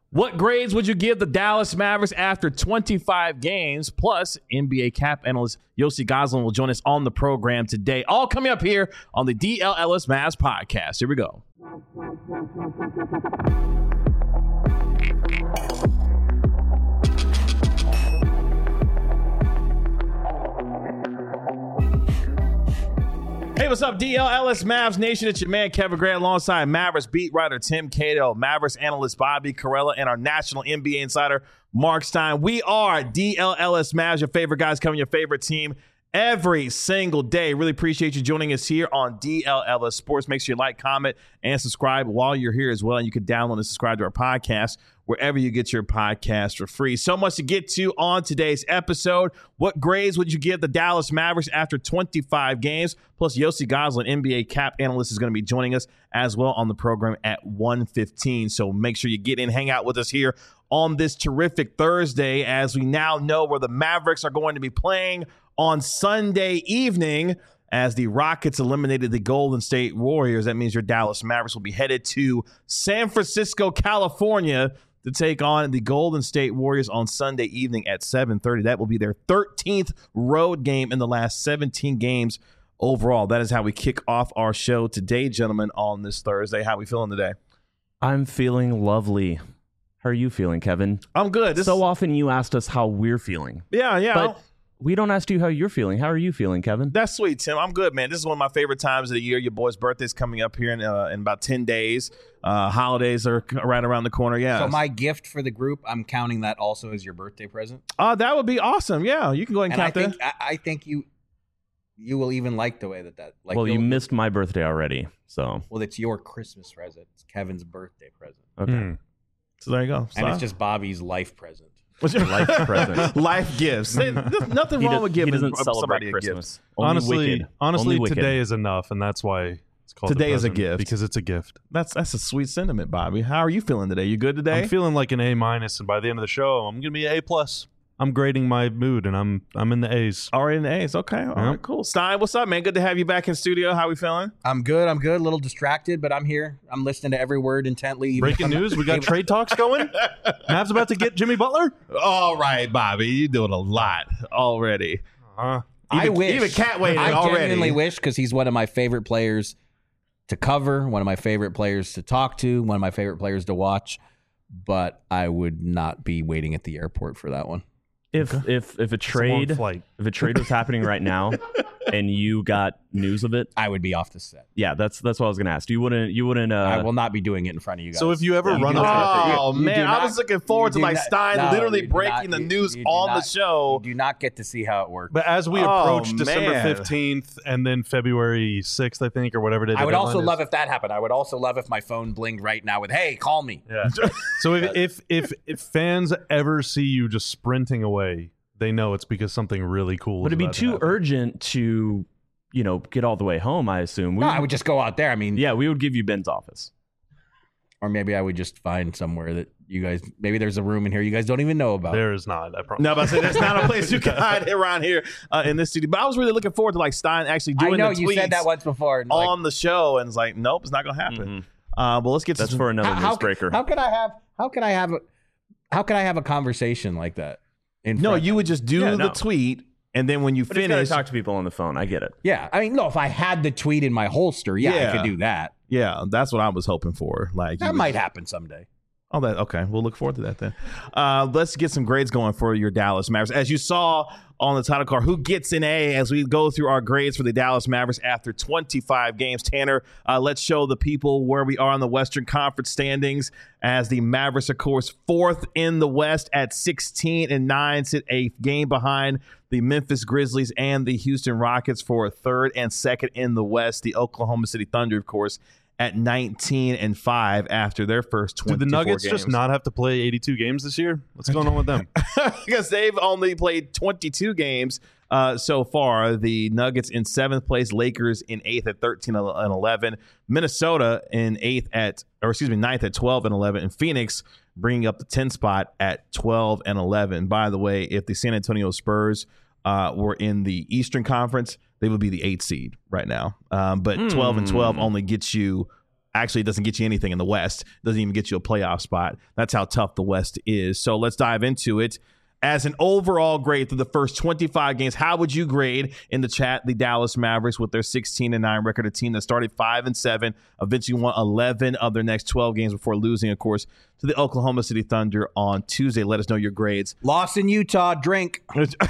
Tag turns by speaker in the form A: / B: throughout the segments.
A: What grades would you give the Dallas Mavericks after 25 games? Plus, NBA cap analyst Yossi Goslin will join us on the program today. All coming up here on the DLLS Mavs podcast. Here we go. Hey, what's up, DLLS Mavs Nation? It's your man, Kevin Grant, alongside Mavericks beat writer Tim Cato, Mavericks analyst Bobby Carella, and our national NBA insider, Mark Stein. We are DLLS Mavs, your favorite guys covering your favorite team every single day. Really appreciate you joining us here on DLLS Sports. Make sure you like, comment, and subscribe while you're here as well. And you can download and subscribe to our podcast wherever you get your podcast for free. So much to get to on today's episode. What grades would you give the Dallas Mavericks after 25 games? Plus, Yossi Goslin, NBA cap analyst, is going to be joining us as well on the program at 1:15. So make sure you get in, hang out with us here on this terrific Thursday, as we now know where the Mavericks are going to be playing on Sunday evening. As the Rockets eliminated the Golden State Warriors, that means your Dallas Mavericks will be headed to San Francisco, California, to take on the Golden State Warriors on Sunday evening at 7:30. That will be their 13th road game in the last 17 games overall. That is how we kick off our show today, gentlemen, on this Thursday. How are we feeling today?
B: I'm feeling lovely. How are you feeling, Kevin?
A: I'm good.
B: So often you asked us how we're feeling.
A: Yeah.
B: But we don't ask you how you're feeling. How are you feeling, Kevin?
A: That's sweet, Tim. I'm good, man. This is one of my favorite times of the year. Your boy's birthday's coming up here in about 10 days. Holidays are right around the corner. Yeah.
C: So my gift for the group, I'm counting that also as your birthday present.
A: That would be awesome. Yeah, you can go ahead and count that.
C: I think you will even like the way that like.
B: Well, you missed my birthday already, so.
C: Well, it's your Christmas present. It's Kevin's birthday present.
B: Okay.
A: So there you go.
C: And it's just Bobby's life present.
A: What's your
B: life present?
A: Life gifts. Nothing wrong with giving somebody
B: Christmas.
A: a gift.
D: Honestly, today is enough, and that's why it's called
A: today
D: a
A: is a
D: present,
A: gift
D: because it's a gift.
A: That's a sweet sentiment, Bobby. How are you feeling today? You good today?
D: I'm feeling like an A-, and by the end of the show, I'm gonna be an A+. I'm grading my mood, and I'm in the A's.
A: Already in the A's. Okay. All right, cool. Stein, what's up, man? Good to have you back in studio. How we feeling?
C: I'm good. A little distracted, but I'm here. I'm listening to every word intently.
D: Breaking news. We got trade talks going. Mavs about to get Jimmy Butler.
A: All right, Bobby. You're doing a lot already.
C: I wish.
A: Even Cat waited
C: I
A: already.
C: genuinely wish, because he's one of my favorite players to cover, one of my favorite players to talk to, one of my favorite players to watch, but I would not be waiting at the airport for that one.
B: If a trade was happening right now and you got news of it,
C: I would be off the set.
B: Yeah, that's what I was gonna ask. You wouldn't
C: I will not be doing it in front of you guys.
D: So if you ever run
A: I was looking forward to Stein literally breaking the news on the show.
C: You do not get to see how it works.
D: But as we approach December 15th and then February 6th, I think, or whatever it is.
C: I would also love if that happened. I would also love if my phone blinged right now with, "Hey, call me."
D: Yeah. So if fans ever see you just sprinting away, they know it's because something really cool.
B: But it'd be too urgent to, get all the way home, I assume.
C: I would just go out there. I mean,
B: yeah, we would give you Ben's office.
C: Or maybe I would just find somewhere that you guys, maybe there's a room in here you guys don't even know about.
D: There is not, I promise.
A: No, but I said there's not a place you can hide around here in this city. But I was really looking forward to Stein actually doing the tweets.
C: I know, you said that once before.
A: On the show, and it's like, nope, it's not going to happen. Well, let's get to
B: That's for another newsbreaker.
C: How can I have a conversation like that?
A: No, you would just do the tweet, and then when you finish,
B: talk to people on the phone. I get it.
C: Yeah, I mean, no, if I had the tweet in my holster, I could do that.
A: Yeah, that's what I was hoping for.
C: That might happen someday.
A: Oh, okay. We'll look forward to that then. Let's get some grades going for your Dallas Mavericks. As you saw on the title card, who gets an A as we go through our grades for the Dallas Mavericks after 25 games. Tanner, let's show the people where we are in the Western Conference standings, as the Mavericks, of course, 4th in the West at 16-9, sit a game behind the Memphis Grizzlies and the Houston Rockets for 3rd and 2nd in the West. The Oklahoma City Thunder, of course, at 19-5 after their first 24 games.
D: Do the Nuggets just not have to play 82 games this year? What's going on with them?
A: Because they've only played 22 games so far. The Nuggets in 7th place, Lakers in 8th at 13-11, Minnesota in 9th at 12-11, and Phoenix bringing up the 10th spot at 12-11. By the way, if the San Antonio Spurs were in the Eastern Conference, they would be the 8th seed right now. But 12-12 only gets you Actually, it doesn't get you anything in the West. It doesn't even get you a playoff spot. That's how tough the West is. So let's dive into it. As an overall grade through the first 25 games, how would you grade in the chat the Dallas Mavericks with their 16-9 record, a team that started 5-7, eventually won 11 of their next 12 games before losing, of course, to the Oklahoma City Thunder on Tuesday? Let us know your grades.
C: Lost in Utah, drink.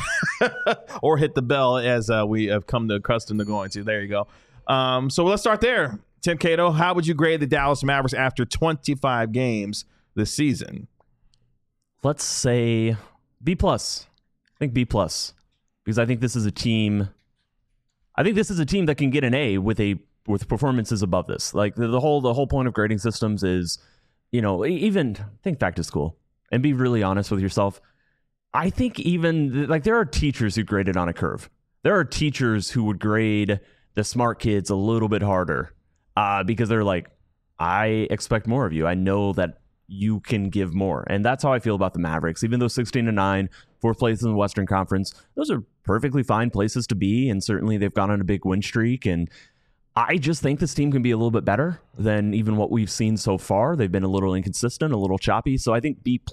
A: Or hit the bell, as we have come to accustomed to going to. There you go. So let's start there. Tim Cato, how would you grade the Dallas Mavericks after 25 games this season?
B: Let's say B+. I think B+, because I think this is a team. I think this is a team that can get an A with performances above this. Like the whole point of grading systems is, even think back to school and be really honest with yourself. I think even like there are teachers who graded on a curve. There are teachers who would grade the smart kids a little bit harder because they're like, I expect more of you. I know that you can give more. And that's how I feel about the Mavericks. Even though 16-9, fourth place in the Western Conference, those are perfectly fine places to be. And certainly they've gone on a big win streak. And I just think this team can be a little bit better than even what we've seen so far. They've been a little inconsistent, a little choppy. So I think B+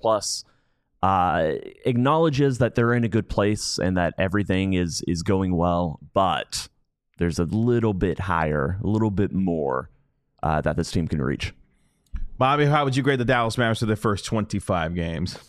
B: acknowledges that they're in a good place and that everything is going well. But there's a little bit higher, a little bit more that this team can reach.
A: Bobby, how would you grade the Dallas Mavericks for their first 25 games?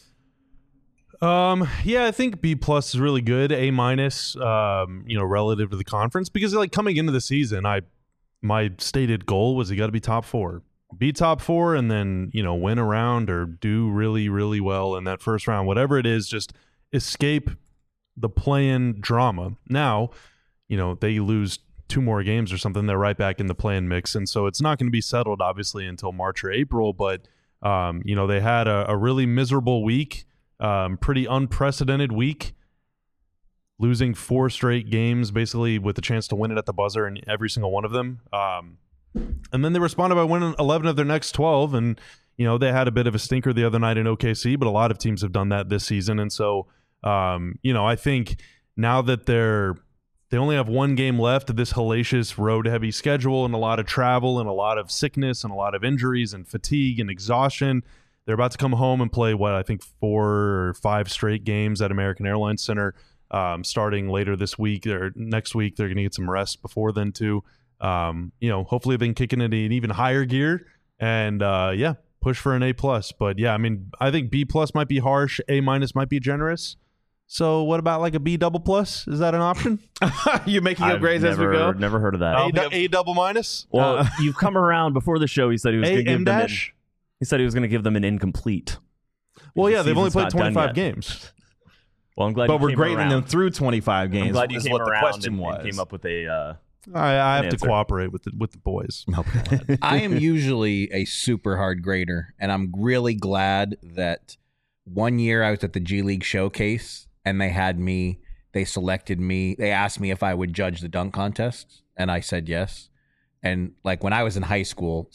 D: Yeah, I think B+ is really good. A-, relative to the conference, because like coming into the season, my stated goal was you got to be top 4, be top 4, and then win a round or do really, really well in that first round, whatever it is. Just escape the play-in drama. Now, they lose 2 more games or something, they're right back in the play-in mix, and so it's not going to be settled obviously until March or April. But they had a really miserable week, pretty unprecedented week, losing 4 straight games basically with the chance to win it at the buzzer in every single one of them. And then they responded by winning 11 of their next 12, and they had a bit of a stinker the other night in OKC, but a lot of teams have done that this season. And so I think now that they only have 1 game left of this hellacious road-heavy schedule and a lot of travel and a lot of sickness and a lot of injuries and fatigue and exhaustion. They're about to come home and play, 4 or 5 straight games at American Airlines Center starting later this week or next week. They're going to get some rest before then, too. Hopefully they can kick it into an even higher gear and, push for an A+. But, yeah, I think B+ might be harsh. A- might be generous. So what about like a B++? Is that an option?
A: You making your grades as we go?
B: Never heard of that.
D: A-?
B: Well, you've come around. Before the show, he said he was going to give them he said he was going to give them an incomplete.
D: Well, yeah, they've only played 25 games.
B: Well, I'm glad.
A: But we're grading them through 25 games.
B: I'm glad you came
A: what the
B: around
A: question
B: and
A: was.
B: came up with a.
D: I have to cooperate with the boys.
C: I am usually a super hard grader, and I'm really glad that one year I was at the G League Showcase. And they selected me. They asked me if I would judge the dunk contests, and I said yes. And like when I was in high school,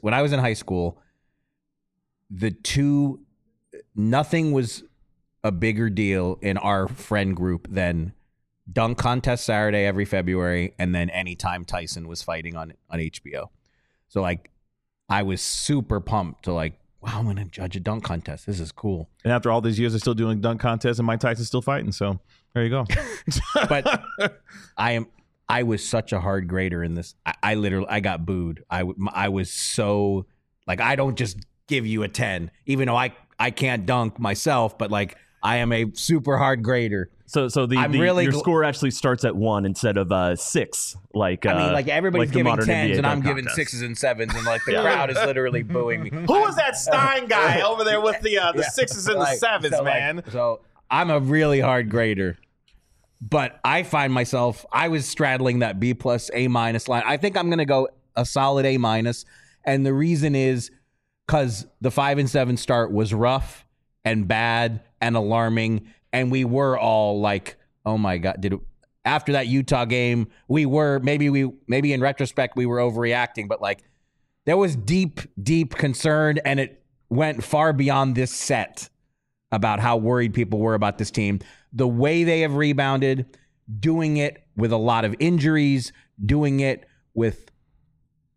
C: nothing was a bigger deal in our friend group than dunk contest Saturday every February, and then anytime Tyson was fighting on HBO. So like, I was super pumped to like, wow, I'm going to judge a dunk contest. This is cool.
A: And after all these years, they're still doing dunk contests, and Mike Tyson's still fighting. So there you go.
C: But I was such a hard grader in this. I got booed. I was so like, I don't just give you a 10, even though I can't dunk myself, but like I am a super hard grader.
B: So your score actually starts at 1 instead of 6. Like
C: everybody's giving 10s
B: NBA
C: and I'm
B: dunk
C: giving
B: contest.
C: 6s and 7s, and like the crowd is literally booing me.
A: Who was that Stein guy over there with the 6s and the 7s, man?
C: So I'm a really hard grader, but I find myself, I was straddling that B+, A- line. I think I'm going to go a solid A-, and the reason is because the 5-7 start was rough and bad and alarming. And we were all like, oh my God, after that Utah game, we were, maybe in retrospect, we were overreacting, but like there was deep concern, and it went far beyond this set about how worried people were about this team. The way they have rebounded, doing it with a lot of injuries, doing it with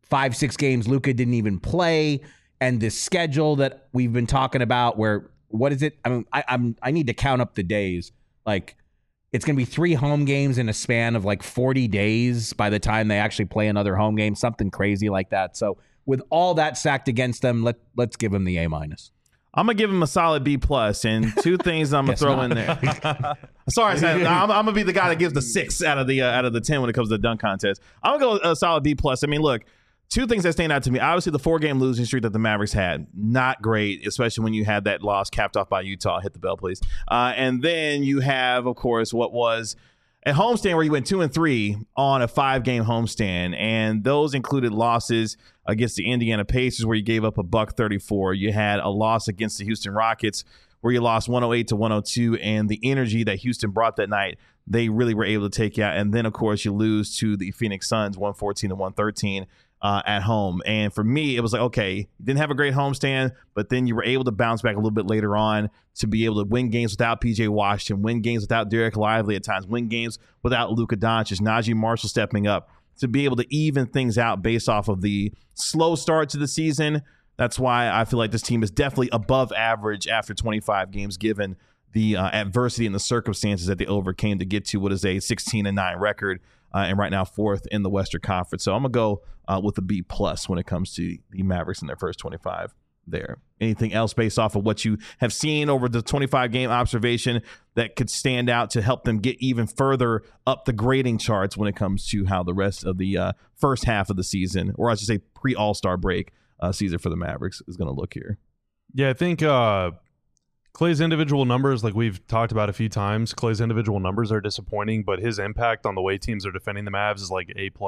C: 5-6 games Luka didn't even play, and this schedule that we've been talking about where, what is it? I mean, I need to count up the days. Like, it's going to be 3 home games in a span of like 40 days by the time they actually play another home game, something crazy like that. So with all that stacked against them, let's give them the A-.
A: I'm gonna give him a solid B+, and 2 things I'm gonna throw in there. Sorry, I'm gonna be the guy that gives the 6 out of the 10 when it comes to the dunk contest. I'm gonna go a solid B+. I mean, look, 2 things that stand out to me. Obviously, the 4-game losing streak that the Mavericks had, not great, especially when you had that loss capped off by Utah. Hit the bell, please. And then you have, of course, what was a homestand where you went 2-3 on a 5-game homestand, and those included losses against the Indiana Pacers where you gave up a $134. You had a loss against the Houston Rockets where you lost 108-102, and the energy that Houston brought that night, they really were able to take you out. And then, of course, you lose to the Phoenix Suns 114-113 at home. And for me, it was like, okay, you didn't have a great homestand, but then you were able to bounce back a little bit later on to be able to win games without PJ Washington, win games without Derek Lively at times, win games without Luka Doncic, Najee Marshall stepping up, to be able to even things out based off of the slow start to the season. That's why I feel like this team is definitely above average after 25 games, given the adversity and the circumstances that they overcame to get to what is a 16-9 record, and right now 4th in the Western Conference. So I'm gonna go with a B+ when it comes to the Mavericks in their first 25 there. Anything else based off of what you have seen over the 25-game observation that could stand out to help them get even further up the grading charts when it comes to how the rest of the first half of the season, or I should say pre-All-Star break season for the Mavericks, is going to look here?
D: Yeah, I think Klay's individual numbers, like we've talked about a few times, Klay's individual numbers are disappointing, but his impact on the way teams are defending the Mavs is like A+.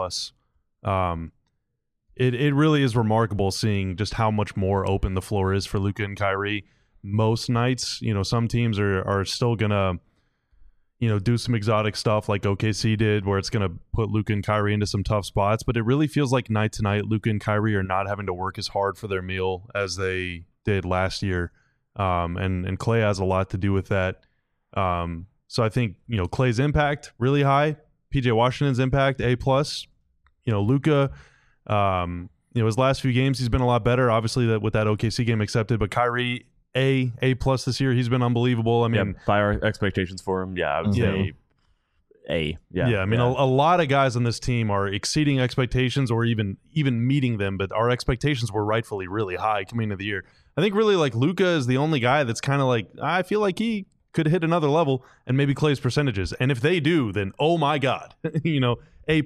D: It really is remarkable seeing just how much more open the floor is for Luka and Kyrie. Most nights, some teams are still gonna, do some exotic stuff like OKC did, where it's gonna put Luka and Kyrie into some tough spots. But it really feels like night to night, Luka and Kyrie are not having to work as hard for their meal as they did last year, and Klay has a lot to do with that. So I think Klay's impact really high, PJ Washington's impact A+. Luka. His last few games he's been a lot better, obviously, that with that OKC game accepted, but Kyrie A+ this year, he's been unbelievable. I mean,
B: by our expectations for him, I would say A.
D: I mean, a lot of guys on this team are exceeding expectations or even meeting them, but our expectations were rightfully really high coming into the year. I think really like Luka is the only guy that's kind of like, I feel like he could hit another level, and maybe Klay's percentages, and if they do, then oh my god, A+++++++.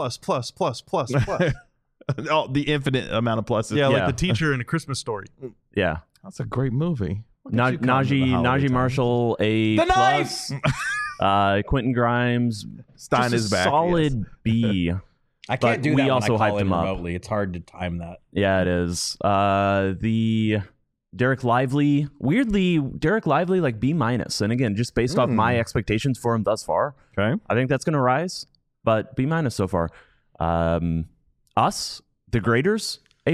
A: Oh, the infinite amount of pluses.
D: Yeah, like the teacher in A Christmas Story.
B: Yeah.
A: That's a great movie.
B: Najee Marshall, A+.
C: The Knights!
B: Quentin Grimes,
A: Stein is back.
B: Solid B.
C: I can't do that.
B: We also hyped him up
C: remotely. It's hard to time that.
B: Yeah, it is. The Derek Lively, weirdly, like B-. And again, just based off my expectations for him thus far,
A: Okay.
B: I think that's going to rise, but B- so far. Us, the graders, A+.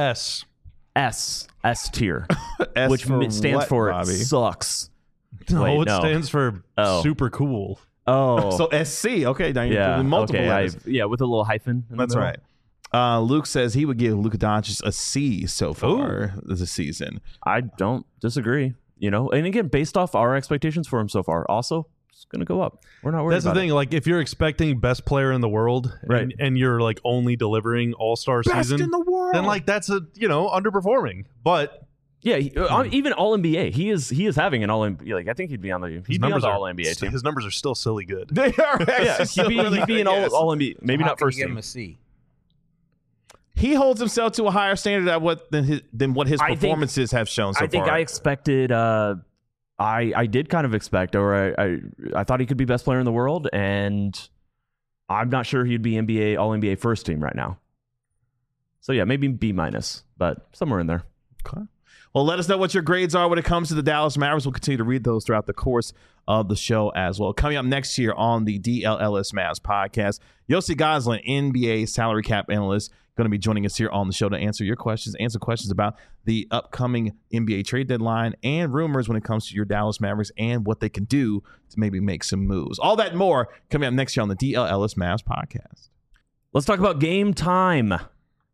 B: S tier, which stands
A: what,
B: for
A: Bobby?
B: Sucks.
D: No,
B: Wait,
D: it stands for super cool.
B: Oh,
A: So SC. Okay, now you're doing multiple letters.
B: with a little hyphen. in the
A: That's
B: middle.
A: right. Luke says he would give Luka Doncic a C so far this season.
B: I don't disagree. And again, based off our expectations for him so far, also it's going to go up. We're not worried.
D: That's the thing. Like, if you're expecting best player in the world,
B: Right.
D: and you're like only delivering All-Star season,
A: in the world.
D: then like that's underperforming. But
B: Yeah, even All NBA, he is having an All NBA. Like I think he'd be on the All NBA team.
D: His numbers are still silly good.
A: They are.
B: Yeah, he'd be an All NBA. Maybe not first
C: Give
B: team.
C: him a C.
A: He holds himself to a higher standard than what his
B: I think-
A: performances have shown so
B: I think
A: far.
B: I expected. I did kind of expect, or I thought he could be best player in the world, and I'm not sure he'd be NBA All NBA first team right now. So yeah, maybe B-, but somewhere in there.
A: Okay. Well, let us know what your grades are when it comes to the Dallas Mavericks. We'll continue to read those throughout the course of the show as well. Coming up next year on the DLLS Mavs podcast, Yossi Goslin, NBA salary cap analyst, going to be joining us here on the show to answer questions about the upcoming NBA trade deadline and rumors when it comes to your Dallas Mavericks and what they can do to maybe make some moves. All that and more coming up next year on the DLLS Mavs podcast.
B: Let's talk about Game Time.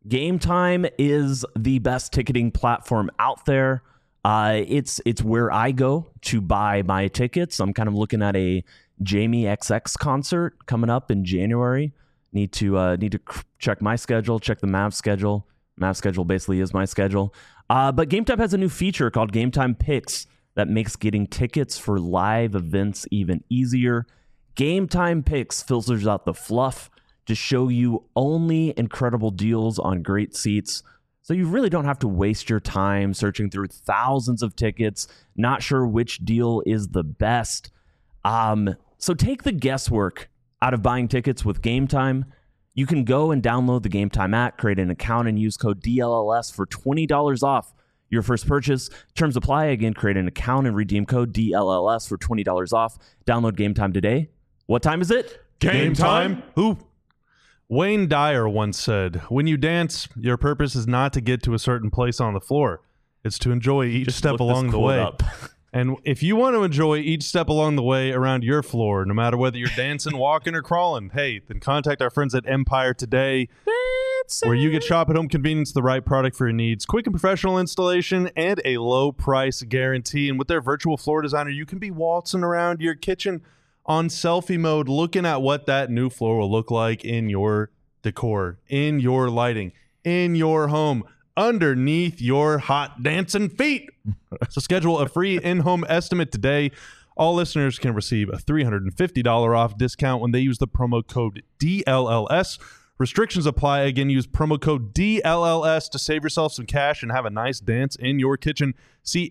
B: Game Time is the best ticketing platform out there. It's where I go to buy my tickets. I'm kind of looking at a Jamie XX concert coming up in January. Need to check my schedule, check the Mavs schedule. Mavs schedule basically is my schedule. But Game Time has a new feature called Game Time Picks that makes getting tickets for live events even easier. Game Time Picks filters out the fluff to show you only incredible deals on great seats. So you really don't have to waste your time searching through thousands of tickets, not sure which deal is the best. So take the guesswork out of buying tickets with Game Time. You can go and download the Game Time app, create an account, and use code DLLS for $20 off your first purchase. Terms apply. Again, create an account and redeem code DLLS for $20 off. Download Game Time today. What time is it?
D: Game time. Who? Wayne Dyer once said, "When you dance, your purpose is not to get to a certain place on the floor. It's to enjoy each step along the way." And if you want to enjoy each step along the way around your floor, no matter whether you're dancing, walking, or crawling, hey, then contact our friends at Empire today, where you get shop at home convenience, the right product for your needs, quick and professional installation, and a low price guarantee. And with their virtual floor designer, you can be waltzing around your kitchen on selfie mode, looking at what that new floor will look like in your decor, in your lighting, in your home, underneath your hot dancing feet. So schedule a free in-home estimate today. All listeners can receive a $350 off discount when they use the promo code DLLS. Restrictions apply. Again, use promo code DLLS to save yourself some cash and have a nice dance in your kitchen. See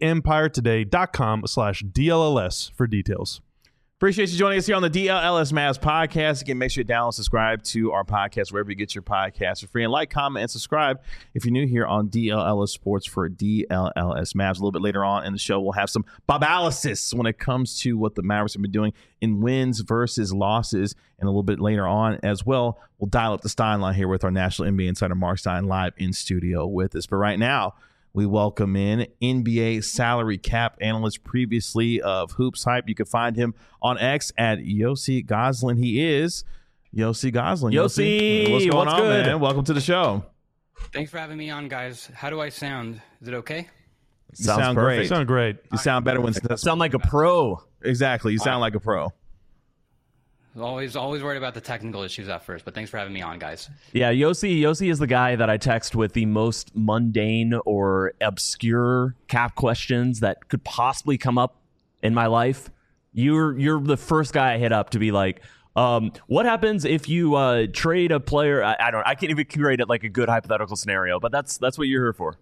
D: empiretoday.com/DLLS for details.
A: Appreciate you joining us here on the DLLS Mavs podcast. Again, make sure you download and subscribe to our podcast wherever you get your podcasts for free. And like, comment, and subscribe if you're new here on DLLS Sports for DLLS Mavs. A little bit later on in the show, we'll have some Bob-analysis when it comes to what the Mavericks have been doing in wins versus losses. And a little bit later on as well, we'll dial up the Stein line here with our National NBA Insider Mark Stein live in studio with us. But right now, we welcome in NBA salary cap analyst previously of Hoops Hype. You can find him on X at Yossi Goslin. He is Yossi Goslin.
B: Yossi,
A: what's going on,
B: good?
A: man? Welcome to the show.
E: Thanks for having me on, guys. How do I sound? Is it okay?
A: You sound great.
D: You sound great.
A: You sound better when
B: Sound like a pro.
A: exactly. You sound like a pro.
E: Always worried about the technical issues at first, but thanks for having me on, guys.
B: Yeah, Yossi is the guy that I text with the most mundane or obscure cap questions that could possibly come up in my life. You're the first guy I hit up to be like, what happens if you trade a player? I can't even create it like a good hypothetical scenario, but that's what you're here for.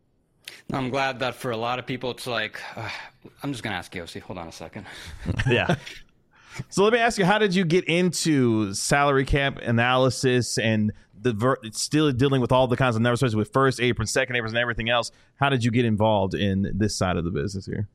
E: I'm glad that for a lot of people, it's like, I'm just going to ask Yossi. Hold on a second.
B: Yeah.
A: So let me ask you, how did you get into salary cap analysis and still dealing with all the kinds of numbers, especially with first apron, second apron, and everything else? How did you get involved in this side of the business here?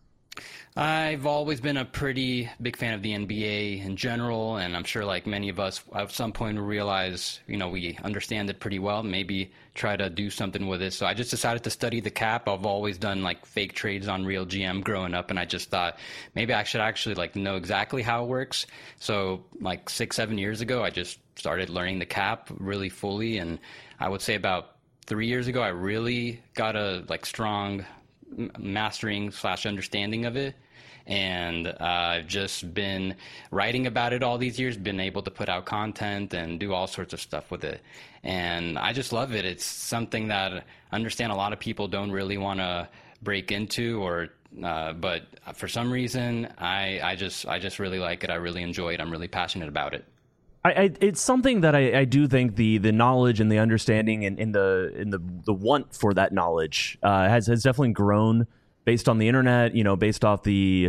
E: I've always been a pretty big fan of the NBA in general, and I'm sure like many of us at some point realize, we understand it pretty well, maybe try to do something with it. So I just decided to study the cap. I've always done like fake trades on Real GM growing up, and I just thought maybe I should actually like know exactly how it works. So like 6-7 years ago, I just started learning the cap really fully, and I would say about 3 years ago, I really got a like strong mastering / understanding of it. And I've just been writing about it all these years, been able to put out content and do all sorts of stuff with it. And I just love it. It's something that I understand a lot of people don't really want to break into, but for some reason, I just really like it. I really enjoy it. I'm really passionate about it.
B: It's something that I do think the knowledge and the understanding and the want for that knowledge has definitely grown based on the internet, based off the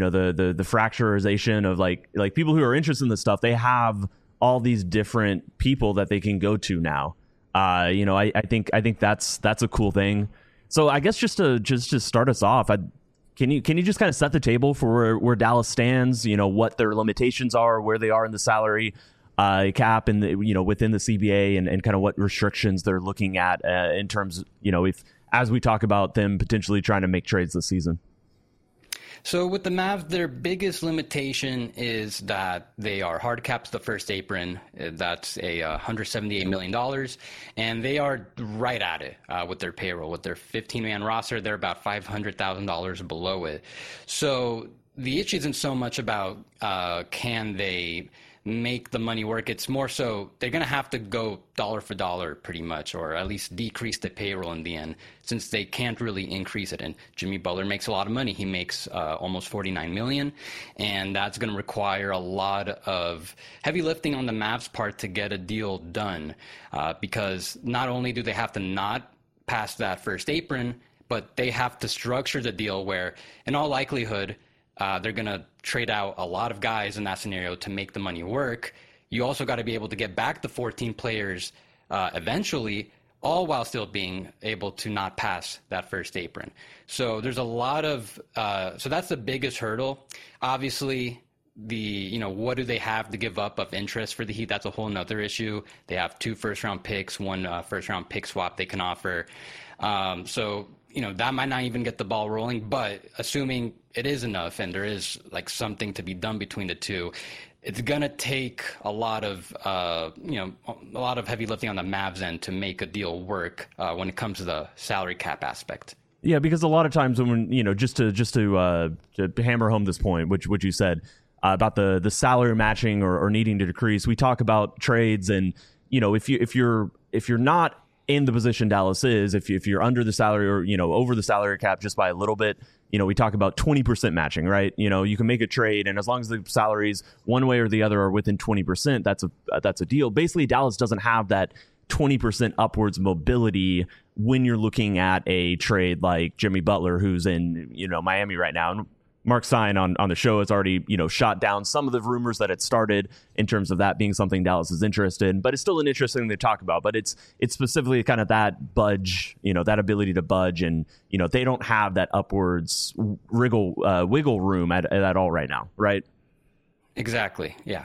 B: fracturization of like people who are interested in this stuff. They have all these different people that they can go to now. I think that's a cool thing. So I guess just to start us off, can you just kind of set the table for where Dallas stands? What their limitations are, where they are in the salary cap, and within the CBA, and kind of what restrictions they're looking at in terms, if as we talk about them potentially trying to make trades this season.
E: So with the Mavs, their biggest limitation is that they are hard capped to the first apron. That's $178 million. And they are right at it with their payroll. With their 15-man roster, they're about $500,000 below it. So the issue isn't so much about can they make the money work. It's more so they're going to have to go dollar for dollar pretty much, or at least decrease the payroll in the end, since they can't really increase it. And Jimmy Butler makes a lot of money. He makes almost $49 million, and that's going to require a lot of heavy lifting on the Mavs' part to get a deal done, because not only do they have to not pass that first apron, but they have to structure the deal where, in all likelihood, they're going to trade out a lot of guys in that scenario to make the money work. You also got to be able to get back the 14 players eventually, all while still being able to not pass that first apron. So there's a lot of so that's the biggest hurdle. Obviously, what do they have to give up of interest for the Heat? That's a whole nother issue. They have 2 first-round picks, 1 first-round pick swap they can offer. So that might not even get the ball rolling, but assuming it is enough and there is like something to be done between the two, it's going to take a lot of heavy lifting on the Mavs end to make a deal work when it comes to the salary cap aspect.
B: Yeah, because a lot of times when just to hammer home this point, which you said about the salary matching or needing to decrease, we talk about trades, and if you're not in the position Dallas is, if you're under the salary or over the salary cap just by a little bit, we talk about 20% matching, right? You can make a trade, and as long as the salaries one way or the other are within 20%, that's a deal. Basically, Dallas doesn't have that 20% upwards mobility when you're looking at a trade like Jimmy Butler, who's in Miami right now. And Mark Stein on the show has already, shot down some of the rumors that had started in terms of that being something Dallas is interested in, but it's still an interesting thing to talk about. But it's specifically kind of that budge, that ability to budge, and they don't have that upwards wiggle room at all right now, right?
E: Exactly. Yeah.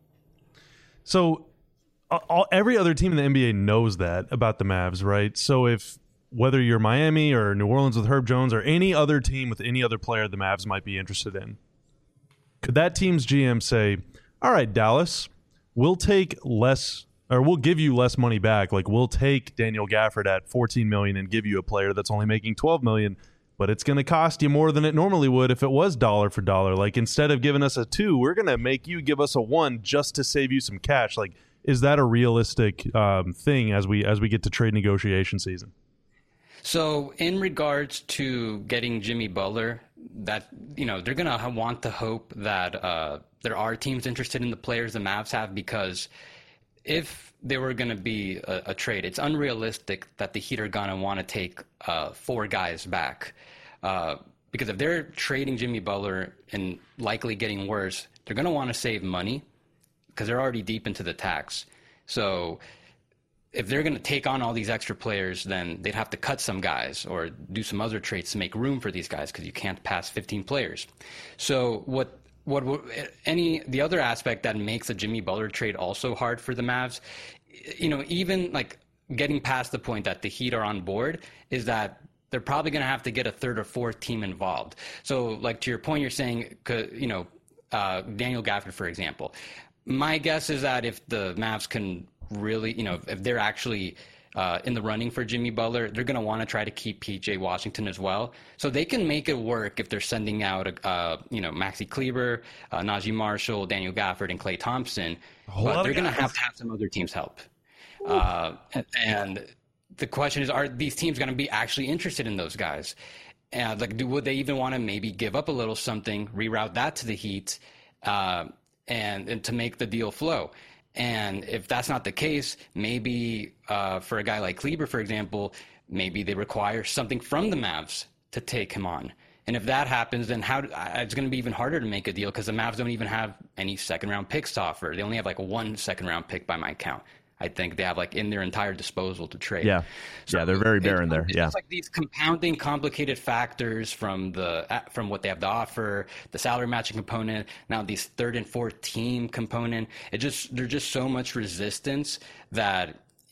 D: So every other team in the NBA knows that about the Mavs, right? So whether you're Miami or New Orleans with Herb Jones or any other team with any other player the Mavs might be interested in, could that team's GM say, all right, Dallas, we'll take less, or we'll give you less money back. Like, we'll take Daniel Gafford at $14 million and give you a player that's only making $12 million, but it's going to cost you more than it normally would if it was dollar for dollar. Like, instead of giving us a 2, we're going to make you give us a 1 just to save you some cash. Like, is that a realistic thing as we get to trade negotiation season?
E: So in regards to getting Jimmy Butler, that they're going to want to hope that there are teams interested in the players the Mavs have, because if there were going to be a trade, it's unrealistic that the Heat are going to want to take 4 guys back. Because if they're trading Jimmy Butler and likely getting worse, they're going to want to save money because they're already deep into the tax. So if they're going to take on all these extra players, then they'd have to cut some guys or do some other trades to make room for these guys, because you can't pass 15 players. So the other aspect that makes a Jimmy Butler trade also hard for the Mavs, even like getting past the point that the Heat are on board, is that they're probably going to have to get a 3rd or 4th team involved. So like to your point, you're saying, Daniel Gafford, for example. My guess is that if the Mavs can really, if they're actually in the running for Jimmy Butler, they're going to want to try to keep PJ Washington as well. So they can make it work if they're sending out, Maxi Kleber, Najee Marshall, Daniel Gafford, and Klay Thompson. But they're going to have some other teams help. And the question is, are these teams going to be actually interested in those guys? And would they even want to maybe give up a little something, reroute that to the Heat, and to make the deal flow? And if that's not the case, maybe for a guy like Kleber, for example, maybe they require something from the Mavs to take him on. And if that happens, then it's going to be even harder to make a deal, because the Mavs don't even have any second-round picks to offer. They only have like 1 second-round pick by my count. I think they have like in their entire disposal to trade.
B: Yeah,
E: so
B: they're very barren there.
E: It's like these compounding, complicated factors from what they have to offer, the salary matching component, now these 3rd and 4th team component. There's just so much resistance that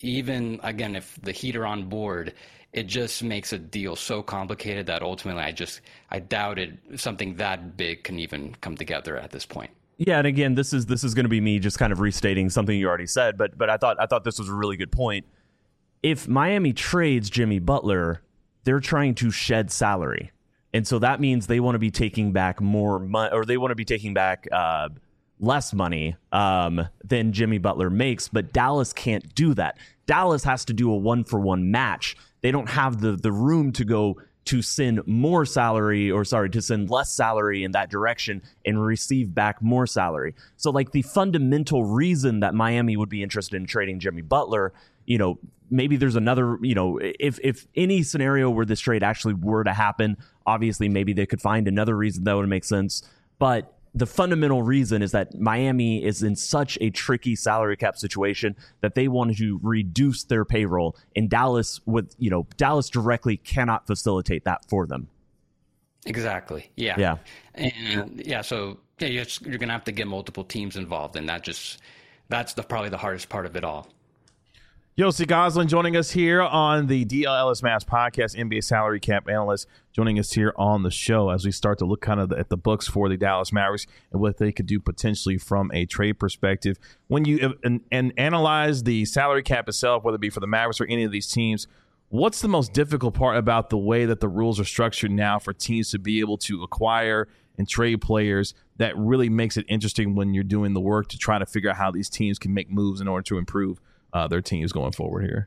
E: even again, if the Heat are on board, it just makes a deal so complicated that ultimately I doubted something that big can even come together at this point.
B: Yeah, and again, this is going to be me just kind of restating something you already said, but I thought this was a really good point. If Miami trades Jimmy Butler, they're trying to shed salary, and so that means they want to be taking back more money, or they want to be taking back less money than Jimmy Butler makes. But Dallas can't do that. Dallas has to do a 1-for-1 match. They don't have the room to go to send more salary, to send less salary in that direction and receive back more salary. So like the fundamental reason that Miami would be interested in trading Jimmy Butler, maybe there's another, if any scenario where this trade actually were to happen, obviously maybe they could find another reason that would make sense. But the fundamental reason is that Miami is in such a tricky salary cap situation that they wanted to reduce their payroll, and Dallas directly cannot facilitate that for them.
E: Exactly. Yeah.
B: Yeah.
E: And so you're going to have to get multiple teams involved, and that's probably the hardest part of it all.
A: Yossi Goslin joining us here on the DLLS Mavs podcast, NBA salary cap analyst, joining us here on the show as we start to look kind of at the books for the Dallas Mavericks and what they could do potentially from a trade perspective. When you and analyze the salary cap itself, whether it be for the Mavericks or any of these teams, what's the most difficult part about the way that the rules are structured now for teams to be able to acquire and trade players that really makes it interesting when you're doing the work to try to figure out how these teams can make moves in order to improve their teams going forward here?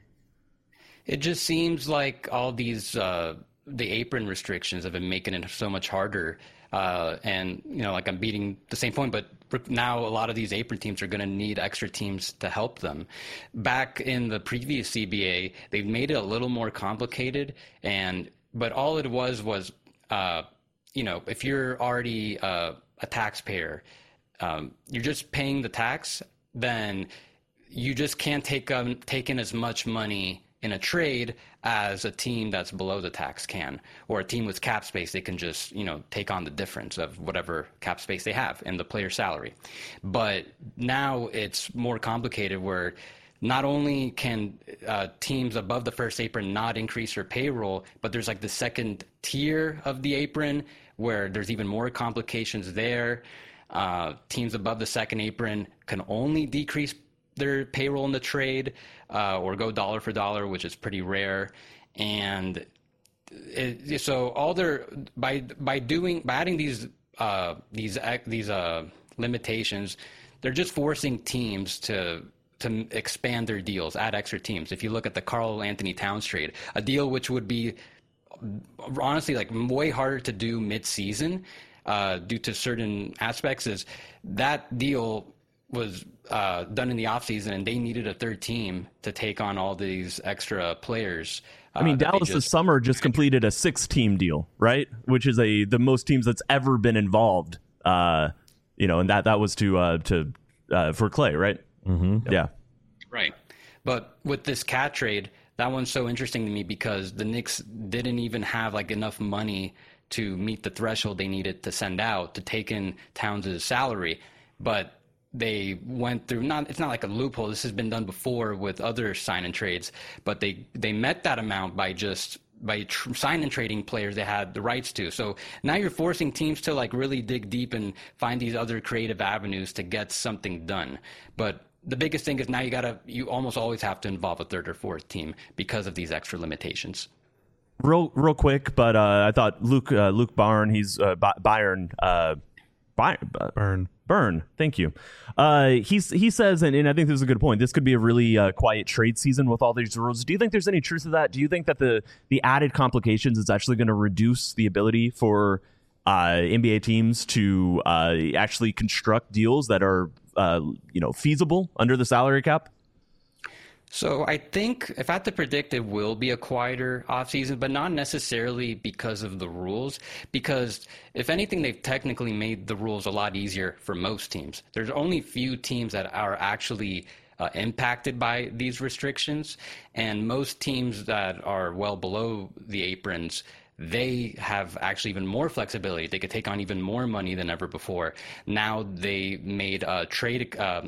E: It just seems like all these the apron restrictions have been making it so much harder. And like I'm beating the same point, but now a lot of these apron teams are going to need extra teams to help them. Back in the previous CBA, they've made it a little more complicated, but all it was if you're already a taxpayer, you're just paying the tax, then you just can't take in as much money in a trade as a team that's below the tax can, or a team with cap space. They can just, take on the difference of whatever cap space they have in the player salary. But now it's more complicated, where not only can teams above the first apron not increase their payroll, but there's like the second tier of the apron where there's even more complications there. Teams above the second apron can only decrease their payroll in the trade or go dollar for dollar, which is pretty rare. And so by adding these limitations, they're just forcing teams to expand their deals, add extra teams. If you look at the Karl Anthony Towns trade, a deal which would be honestly like way harder to do mid-season due to certain aspects, is that deal was done in the offseason, and they needed a third team to take on all these extra players.
B: Dallas this summer just completed a 6-team deal, right? Which is the most teams that's ever been involved. And that was for Clay, right?
C: Mm-hmm.
B: Yeah.
E: Right. But with this cat trade, that one's so interesting to me because the Knicks didn't even have like enough money to meet the threshold they needed to send out to take in Towns' salary, but they went through, it's not like a loophole. This has been done before with other sign and trades, but they met that amount by sign and trading players they had the rights to. So now you're forcing teams to like really dig deep and find these other creative avenues to get something done. But the biggest thing is now you almost always have to involve a third or fourth team because of these extra limitations.
B: Real quick, but I thought Luke Byrne, Byrne, thank you. He says, and I think this is a good point, this could be a really quiet trade season with all these rules. Do you think there's any truth to that? Do you think that the added complications is actually going to reduce the ability for NBA teams to actually construct deals that are feasible under the salary cap?
E: So I think if I had to predict, it will be a quieter offseason, but not necessarily because of the rules. Because if anything, they've technically made the rules a lot easier for most teams. There's only few teams that are actually impacted by these restrictions. And most teams that are well below the aprons, they have actually even more flexibility. They could take on even more money than ever before. Now they made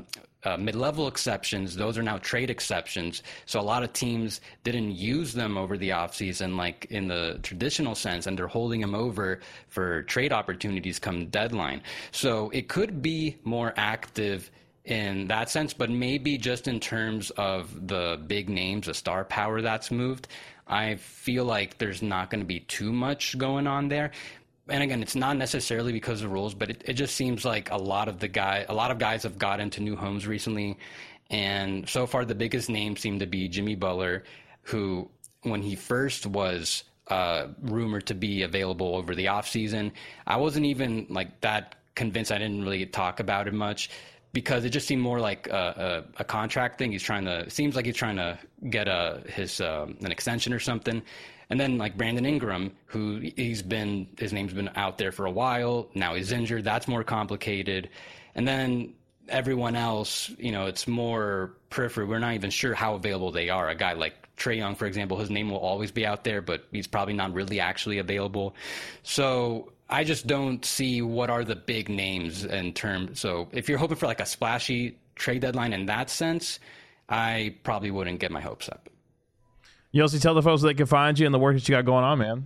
E: mid-level exceptions, those are now trade exceptions. So a lot of teams didn't use them over the offseason like in the traditional sense, and they're holding them over for trade opportunities come deadline. So it could be more active in that sense, but maybe just in terms of the big names, the star power that's moved, I feel like there's not going to be too much going on there. And again, it's not necessarily because of rules, but it just seems like a lot of guys have got into new homes recently. And so far, the biggest names seem to be Jimmy Butler, who, when he first was rumored to be available over the offseason, I wasn't even like that convinced. I didn't really talk about it much because it just seemed more like a contract thing. Seems like he's trying to get an extension or something. And then like Brandon Ingram, who his name's been out there for a while. Now he's injured. That's more complicated. And then everyone else, it's more peripheral. We're not even sure how available they are. A guy like Trae Young, for example, his name will always be out there, but he's probably not really actually available. So I just don't see what are the big names in terms. So if you're hoping for like a splashy trade deadline in that sense, I probably wouldn't get my hopes up.
A: You also tell the folks that they can find you and the work that you got going on, man.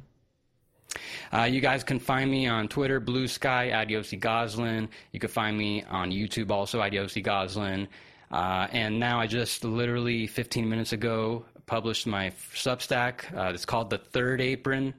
E: You guys can find me on Twitter, Blue Sky, at Yossi Goslin. You can find me on YouTube also at Yossi Goslin. And now I just literally 15 minutes ago published my Substack. It's called The Third Apron.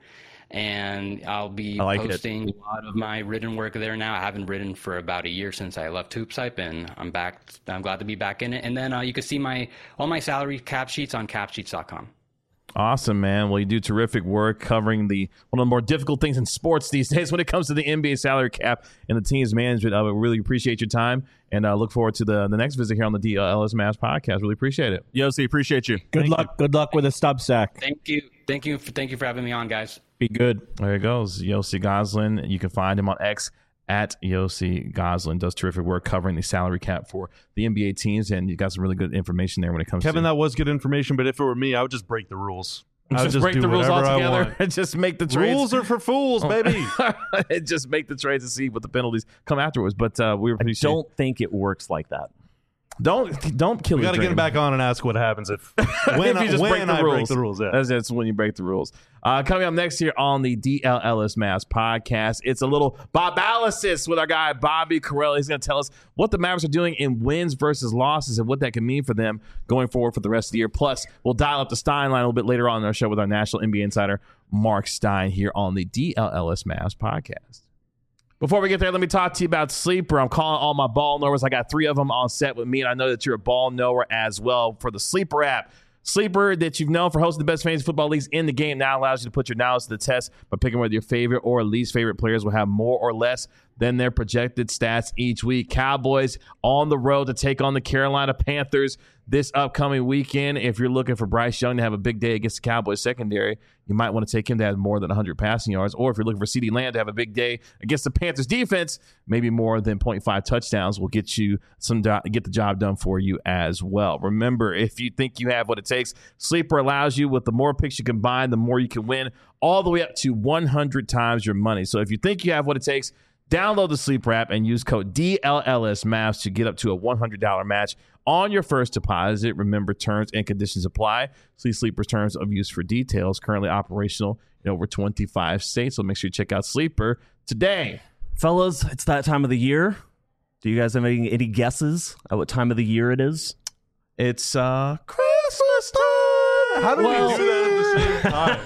E: And I'll be posting a lot of my written work there now. I haven't written for about a year since I left HoopsHype, and I'm back. I'm glad to be back in it. And then you can see all my salary cap sheets on capsheets.com.
A: Awesome, man. Well, you do terrific work covering one of the more difficult things in sports these days when it comes to the NBA salary cap and the team's management of it. Really appreciate your time, and look forward to the next visit here on the DLS Mavs podcast. Really appreciate it.
B: Yossi, appreciate you.
C: Good luck with the Substack.
E: Thank you for having me on, guys.
C: Be good.
A: There it goes. Yossi Goslin. You can find him on X at Yossi Goslin. Does terrific work covering the salary cap for the NBA teams, and you got some really good information there when it comes
D: Kevin,
A: to...
D: that was good information, but if it were me, I would just break the rules.
A: Just break the rules altogether and just make the trades.
D: Rules are for fools, baby.
A: Just make the trades and see what the penalties come afterwards. But we appreciate.
B: I don't think it works like that.
A: Don't kill.
D: We got to get him back on and ask what happens if when
A: you just break the rules.
D: Yeah.
A: That's when you break the rules. Coming up next here on the DLLS Mavs podcast, it's a little Bobalysis with our guy Bobby Karalla. He's going to tell us what the Mavericks are doing in wins versus losses and what that can mean for them going forward for the rest of the year. Plus, we'll dial up the Stein line a little bit later on in our show with our national NBA insider Mark Stein here on the DLLS Mavs podcast. Before we get there, let me talk to you about Sleeper. I'm calling all my ball knowers. I got 3 of them on set with me, and I know that you're a ball knower as well for the Sleeper app. Sleeper, that you've known for hosting the best fantasy football leagues in the game, now allows you to put your knowledge to the test by picking whether your favorite or least favorite players will have more or less than their projected stats each week. Cowboys on the road to take on the Carolina Panthers this upcoming weekend. If you're looking for Bryce Young to have a big day against the Cowboys secondary, you might want to take him to have more than 100 passing yards. Or if you're looking for CeeDee Lamb to have a big day against the Panthers defense, maybe more than 0.5 touchdowns will get you get the job done for you as well. Remember, if you think you have what it takes, Sleeper allows you, with the more picks you combine, the more you can win, all the way up to 100 times your money. So if you think you have what it takes, download the Sleeper app and use code DLLSMavs to get up to a $100 match on your first deposit. Remember, terms and conditions apply. See Sleeper's terms of use for details. Currently operational in over 25 states, so make sure you check out Sleeper today.
B: Fellas, it's that time of the year. Do you guys have any guesses at what time of the year it is?
A: It's Christmas time.
D: How do we do that at the same time?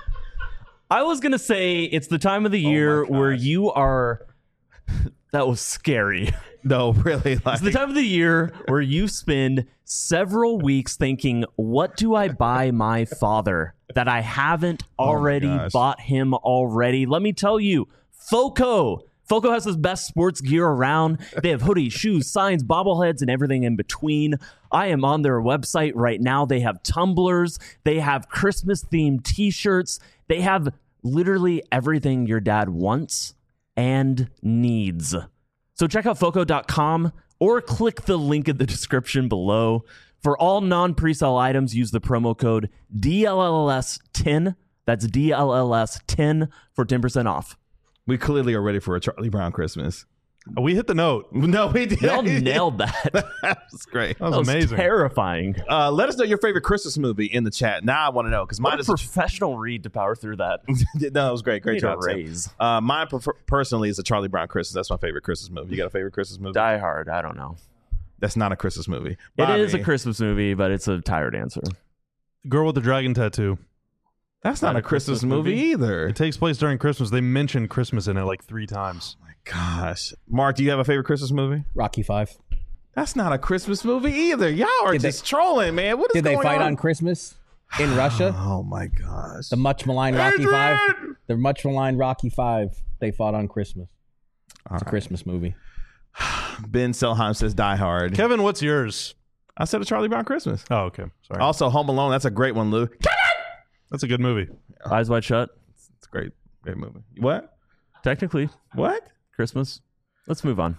B: I was going to say it's the time of the year where you are... That was scary.
A: No, really.
B: It's the time of the year where you spend several weeks thinking, what do I buy my father that I haven't already bought him already? Let me tell you, Foco. Foco has the best sports gear around. They have hoodies, shoes, signs, bobbleheads, and everything in between. I am on their website right now. They have tumblers. They have Christmas-themed T-shirts. They have literally everything your dad wants and needs. So check out Foco.com or click the link in the description below. For all non-presale items, use the promo code DLLS10. That's DLLS10 for 10% off.
A: We clearly are ready for a Charlie Brown Christmas.
D: We hit the note.
A: No, we did.
B: Y'all nailed that.
A: That was great.
D: That was amazing.
B: Terrifying.
A: Let us know your favorite Christmas movie in the chat. Now I want to know because mine
B: What a
A: is
B: professional read to power through that.
A: no, it was great. Great
B: Need a
A: job, Sam.
B: raise.
A: Mine personally is a Charlie Brown Christmas. That's my favorite Christmas movie. You got a favorite Christmas movie?
B: Die Hard. I don't know.
A: That's not a Christmas movie.
B: It is a
A: Bobby,
B: Christmas movie, but it's a tired answer.
D: Girl with the Dragon Tattoo.
A: That's not a Christmas movie either.
D: It takes place during Christmas. They mentioned Christmas in it like 3 times.
A: My gosh, Mark, do you have a favorite Christmas movie?
C: Rocky 5.
A: That's not a Christmas movie either. Y'all are
C: Did
A: just trolling, man. What is
C: Did they
A: going
C: fight
A: on
C: on Christmas in Russia?
A: Oh my gosh.
C: The much maligned Rocky
A: Adrian!
C: 5. The much maligned Rocky 5. They fought on Christmas. It's a Christmas movie.
A: Ben Selheim says Die Hard.
D: Kevin, what's yours?
A: I said a Charlie Brown Christmas.
D: Oh, okay. Sorry.
A: Also, Home Alone. That's a great one, Lou.
D: That's a good movie.
B: Eyes Wide Shut.
A: It's a great movie. What?
B: Technically,
A: What?
B: Christmas. Let's move on.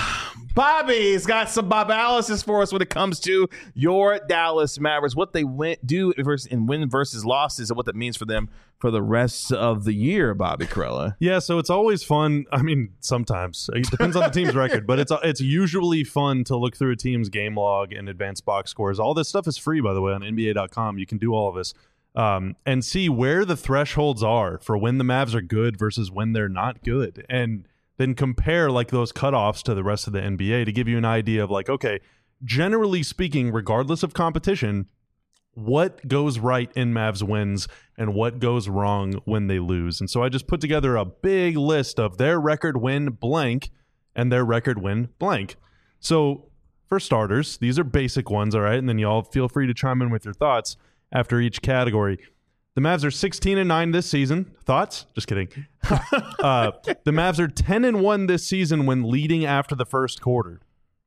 A: Bobby's got some Bob Alice's for us when it comes to your Dallas Mavericks. What they do in win versus losses and what that means for them for the rest of the year, Bobby Corella.
D: Yeah, so it's always fun. I mean, sometimes it depends on the team's record, but it's usually fun to look through a team's game log and advanced box scores. All this stuff is free, by the way, on NBA.com. You can do all of this and see where the thresholds are for when the Mavs are good versus when they're not good, and then compare like those cutoffs to the rest of the NBA to give you an idea of like, okay, generally speaking, regardless of competition, what goes right in Mavs wins and what goes wrong when they lose. And so I just put together a big list of their record win blank and their record win blank. So for starters, these are basic ones, all right? And then y'all feel free to chime in with your thoughts after each category. The Mavs are 16-9 this season. Thoughts? Just kidding. The Mavs are 10-1 this season when leading after the first quarter.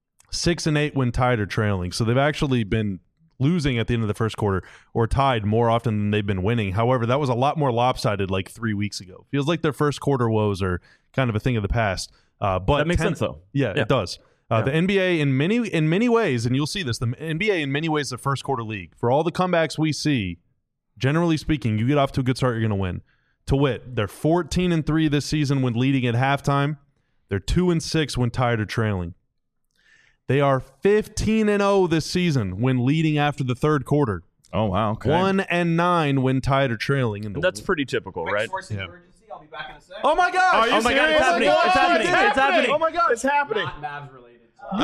D: 6-8 when tied or trailing. So they've actually been losing at the end of the first quarter or tied more often than they've been winning. However, that was a lot more lopsided like 3 weeks ago. Feels like their first quarter woes are kind of a thing of the past. But
B: That makes sense, though.
D: Yeah, it does. The NBA in many ways, and you'll see this, the NBA in many ways is a first quarter league. For all the comebacks we see, generally speaking, you get off to a good start, you're going to win. To wit, they're 14-3 this season when leading at halftime. They're 2-6 when tied or trailing. They are 15-0 this season when leading after the third quarter.
A: Oh, wow. Okay.
D: 1-9 when tied or trailing. And
B: That's pretty typical, right?
D: Yeah.
C: I'll be back in a second.
A: Oh, my gosh.
B: Oh my God, it's happening. It's happening. It's happening.
A: Oh, my God. It's happening.
C: Mavs related.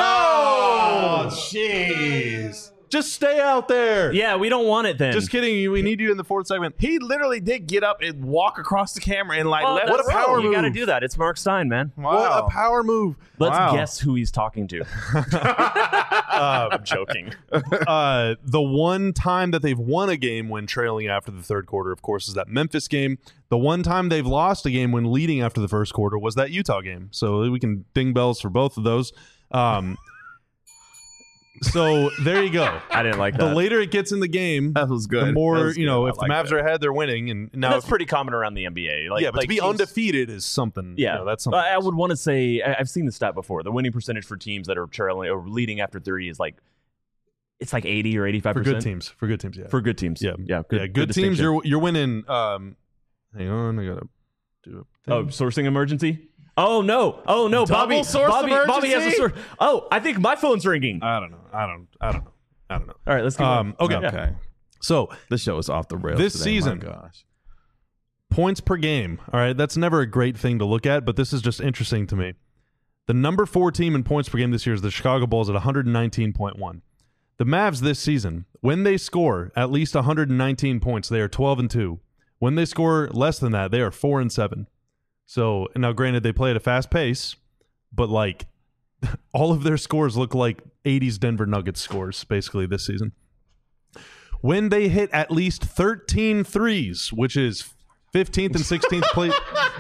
A: No. Jeez.
D: Just stay out there.
B: Yeah, we don't want it then.
D: Just kidding. We need you in the fourth segment.
A: He literally did get up and walk across the camera and like,
B: Well,
A: let
B: that's
A: us
B: right.
D: power
B: You got to
D: move.
B: do that. It's Mark Stein, man.
A: Wow.
D: What a power move.
B: Let's
A: Wow.
B: guess who he's talking to. I'm joking.
D: The one time that they've won a game when trailing after the third quarter, of course, is that Memphis game. The one time they've lost a game when leading after the first quarter was that Utah game. So we can ding bells for both of those. So there you go.
B: I didn't like
D: The
B: that.
D: later it gets in the game,
A: That was good.
D: the more,
A: That was
D: you know,
A: good. I
D: if the
A: like
D: Mavs
A: that.
D: are ahead, they're winning. And now,
B: That's pretty common around the NBA. Like,
D: yeah, but
B: like
D: to be
B: teams-
D: undefeated is something.
B: Yeah,
D: you know, that's something.
B: I would want to say I've seen the stat before. The winning percentage for teams that are trailing or leading after 30 is like it's like 80 or 85%
D: for good teams. For good teams, yeah.
B: For good teams,
D: yeah,
B: yeah,
D: good teams.
B: distinction.
D: You're winning. Hang on, I gotta do it.
B: Oh, sourcing emergency. Oh no!
A: Double
B: Bobby,
A: source
B: Bobby has a
A: emergency?
B: source. Oh, I think my phone's ringing.
D: I don't know.
B: All right, let's go.
D: Okay.
A: Okay.
D: So
A: This show is off the rails
D: This
A: today.
D: season.
A: My gosh.
D: points per game. All right, that's never a great thing to look at, but this is just interesting to me. The number 4 team in points per game this year is the Chicago Bulls at 119.1. The Mavs this season, when they score at least 119 points, they are 12-2. When they score less than that, they are 4-7. So now, granted, they play at a fast pace, but like all of their scores look like 80s Denver Nuggets scores basically this season. When they hit at least 13 threes, which is 15th and 16th place.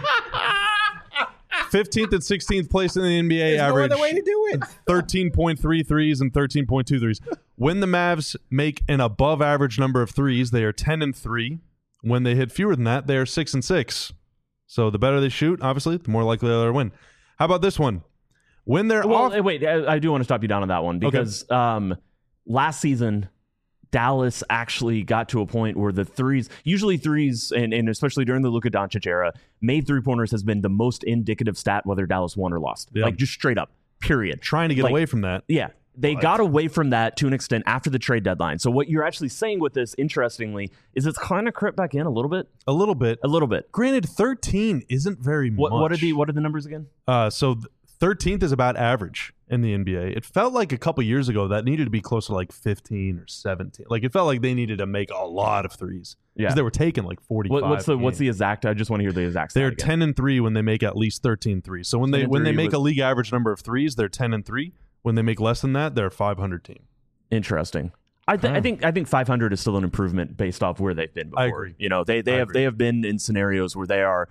D: 15th and 16th place in the NBA average.
C: No other way to do it.
D: 13.3 threes and 13.2 threes. When the Mavs make an above average number of threes, they are 10-3. When they hit fewer than that, they are 6-6. So the better they shoot, obviously, the more likely they'll win. How about this one? When they're
B: Well,
D: off.
B: wait, I do want to stop you down on that one because last season Dallas actually got to a point where the threes, usually threes, and especially during the Luka Doncic era, made three-pointers has been the most indicative stat whether Dallas won or lost.
D: Yeah.
B: Like, just straight up, period.
D: Trying to get away from that.
B: Yeah. They got away from that to an extent after the trade deadline. So what you're actually saying with this, interestingly, is it's kind of crept back in a little bit.
D: A little bit.
B: A little bit.
D: Granted, 13 isn't very much.
B: What are the numbers again?
D: So 13th is about average in the NBA. It felt like a couple years ago that needed to be closer to like 15 or 17. Like, it felt like they needed to make a lot of threes.
B: Yeah.
D: Because they were taking like 45.
B: What's the exact? I just want to hear the exact stat
D: They're
B: again.
D: 10-3 when they make at least 13 threes. So when they make a league average number of threes, they're 10-3. When they make less than that, they're a 500 team.
B: Interesting. I think 500 is still an improvement based off where they've been before.
D: I agree.
B: You know, they have been in scenarios where they are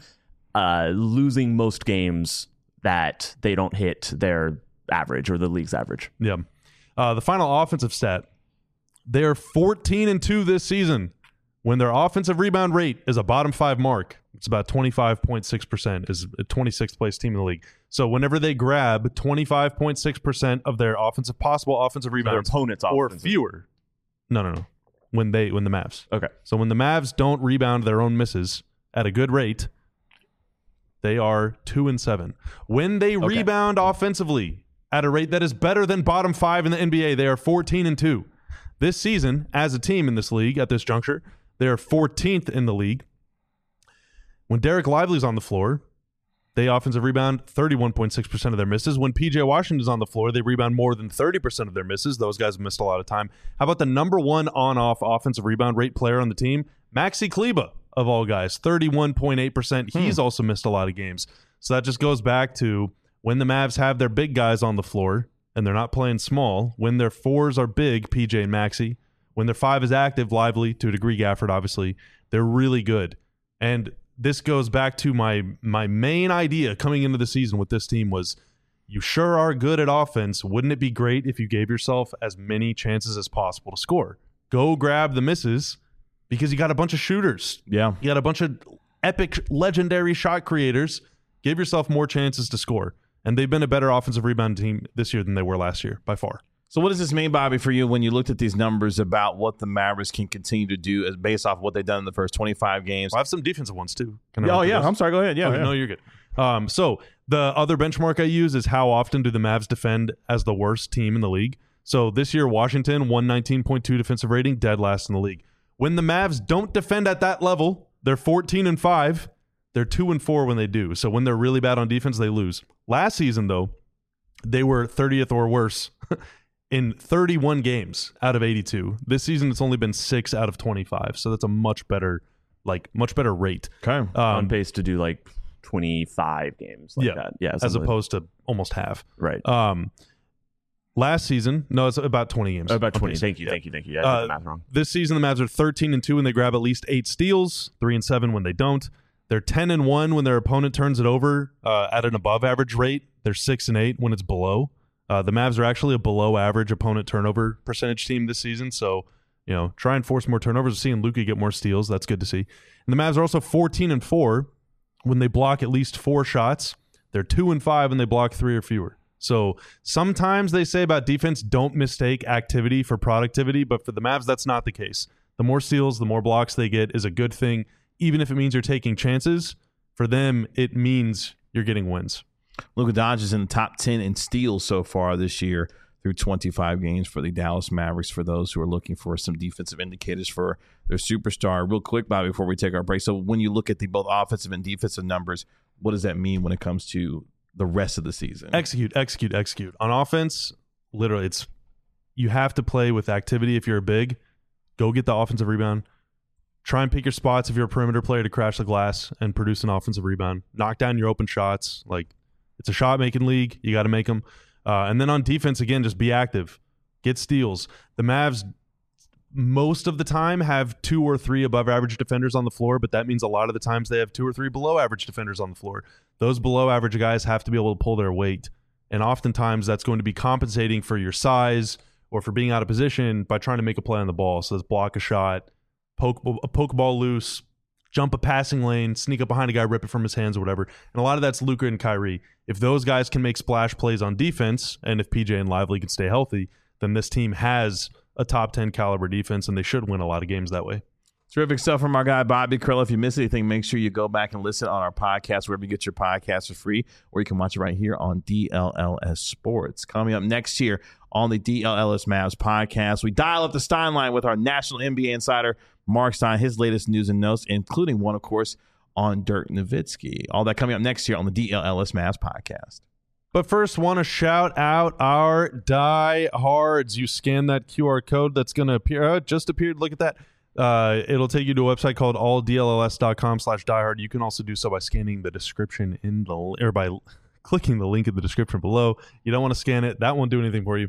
B: losing most games that they don't hit their average or the league's average.
D: Yeah. The final offensive stat, they're 14-2 this season when their offensive rebound rate is a bottom 5 mark. It's about 25.6%, is a 26th place team in the league. So whenever they grab 25.6% of their possible offensive rebounds,
B: their opponent's
D: or
B: offensive.
D: fewer. No. When the Mavs.
B: Okay.
D: So when the Mavs don't rebound their own misses at a good rate, they are 2-7. When they rebound offensively at a rate that is better than bottom 5 in the NBA, they are 14-2. This season, as a team in this league at this juncture, they are 14th in the league. When Derek Lively's on the floor, they offensive rebound 31.6% of their misses. When PJ Washington's on the floor, they rebound more than 30% of their misses. Those guys have missed a lot of time. How about the number one on-off offensive rebound rate player on the team? Maxi Kleber, of all guys, 31.8%. He's also missed a lot of games. So that just goes back to when the Mavs have their big guys on the floor and they're not playing small, when their fours are big, PJ and Maxi, when their 5 is active, Lively, to a degree Gafford, obviously, they're really good. And this goes back to my main idea coming into the season with this team was, you sure are good at offense. Wouldn't it be great if you gave yourself as many chances as possible to score? Go grab the misses because you got a bunch of shooters.
A: Yeah.
D: You got a bunch of epic, legendary shot creators. Give yourself more chances to score. And they've been a better offensive rebound team this year than they were last year, by far.
A: So what does this mean, Bobby, for you when you looked at these numbers about what the Mavericks can continue to do as based off what they've done in the first 25 games?
D: I have some defensive ones, too. Can I
A: Oh,
D: run through
A: yeah.
D: those?
A: I'm sorry. Go ahead. Yeah.
D: Okay,
A: yeah.
D: no, you're good. So the other benchmark I use is how often do the Mavs defend as the worst team in the league. So this year, Washington, 119.2 defensive rating, dead last in the league. When the Mavs don't defend at that level, they're 14-5. They're 2-4 when they do. So when they're really bad on defense, they lose. Last season, though, they were 30th or worse in 31 games out of 82. This season, it's only been 6 out of 25. So that's a much better rate.
A: Okay.
B: On pace to do like 25 games like that. Yeah.
D: As opposed to almost half.
B: Right.
D: Last season, no, it's about 20 games.
B: About
D: on
B: 20.
D: pace.
B: Thank you. Yeah, I did the math wrong.
D: This season, the Mavs are 13-2 when they grab at least 8 steals, 3-7 when they don't. They're 10-1 when their opponent turns it over at an above average rate. They're 6-8 when it's below. The Mavs are actually a below average opponent turnover percentage team this season. So, try and force more turnovers. We're seeing Luka get more steals. That's good to see. And the Mavs are also 14-4 when they block at least 4 shots. They're 2-5 when they block 3 or fewer. So sometimes they say about defense, don't mistake activity for productivity. But for the Mavs, that's not the case. The more steals, the more blocks they get is a good thing. Even if it means you're taking chances, for them, it means you're getting wins.
A: Luka Doncic is in the top 10 in steals so far this year through 25 games for the Dallas Mavericks, for those who are looking for some defensive indicators for their superstar. Real quick, Bobby, before we take our break. So when you look at the both offensive and defensive numbers, what does that mean when it comes to the rest of the season?
D: Execute. On offense, literally, you have to play with activity if you're a big. Go get the offensive rebound. Try and pick your spots if you're a perimeter player to crash the glass and produce an offensive rebound. Knock down your open shots. It's a shot-making league. You got to make them. And then on defense, again, just be active. Get steals. The Mavs, most of the time, have 2 or 3 above-average defenders on the floor, but that means a lot of the times they have 2 or 3 below-average defenders on the floor. Those below-average guys have to be able to pull their weight. And oftentimes that's going to be compensating for your size or for being out of position by trying to make a play on the ball. So let's block a shot, poke a ball loose, jump a passing lane, sneak up behind a guy, rip it from his hands or whatever. And a lot of that's Luka and Kyrie. If those guys can make splash plays on defense, and if PJ and Lively can stay healthy, then this team has a top 10 caliber defense, and they should win a lot of games that way.
A: Terrific stuff from our guy, Bobby Karalla. If you missed anything, make sure you go back and listen on our podcast, wherever you get your podcasts for free, or you can watch it right here on DLLS Sports. Coming up next year on the DLLS Mavs podcast, we dial up the Stein line with our national NBA insider, Mark Stein, his latest news and notes, including one, of course, on Dirk Nowitzki. All that coming up next year on the DLLS Mavs podcast.
D: But first, want to shout out our diehards. You scan that QR code that's going to appear. Just appeared. Look at that. It'll take you to a website called alldlls.com/diehard. You can also do so by scanning the description or by clicking the link in the description below. You don't want to scan it. That won't do anything for you.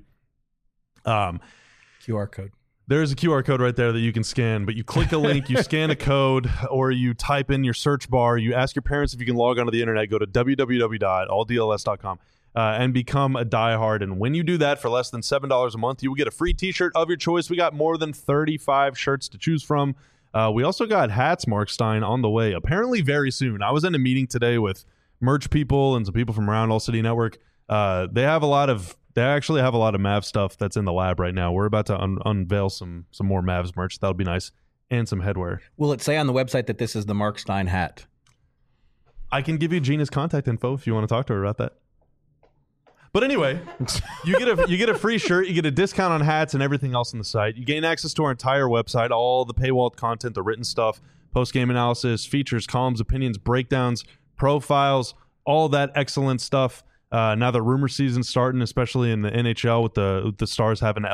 C: QR code.
D: There's a QR code right there that you can scan, but you click a link, you scan a code, or you type in your search bar. You ask your parents if you can log onto the internet. Go to www.alldlls.com. And become a diehard. And when you do that for less than $7 a month, you will get a free t-shirt of your choice. We got more than 35 shirts to choose from. We also got hats, Mark Stein, on the way, apparently very soon. I was in a meeting today with merch people and some people from around All City Network. They actually have a lot of Mavs stuff that's in the lab right now. We're about to unveil some more Mavs merch. That'll be nice. And some headwear.
C: Will it say on the website that this is the Mark Stein hat?
D: I can give you Gina's contact info if you want to talk to her about that. But anyway, you get a free shirt, you get a discount on hats and everything else on the site. You gain access to our entire website, all the paywalled content, the written stuff, post-game analysis, features, columns, opinions, breakdowns, profiles, all that excellent stuff. Now the rumor season's starting, especially in the NHL with the Stars having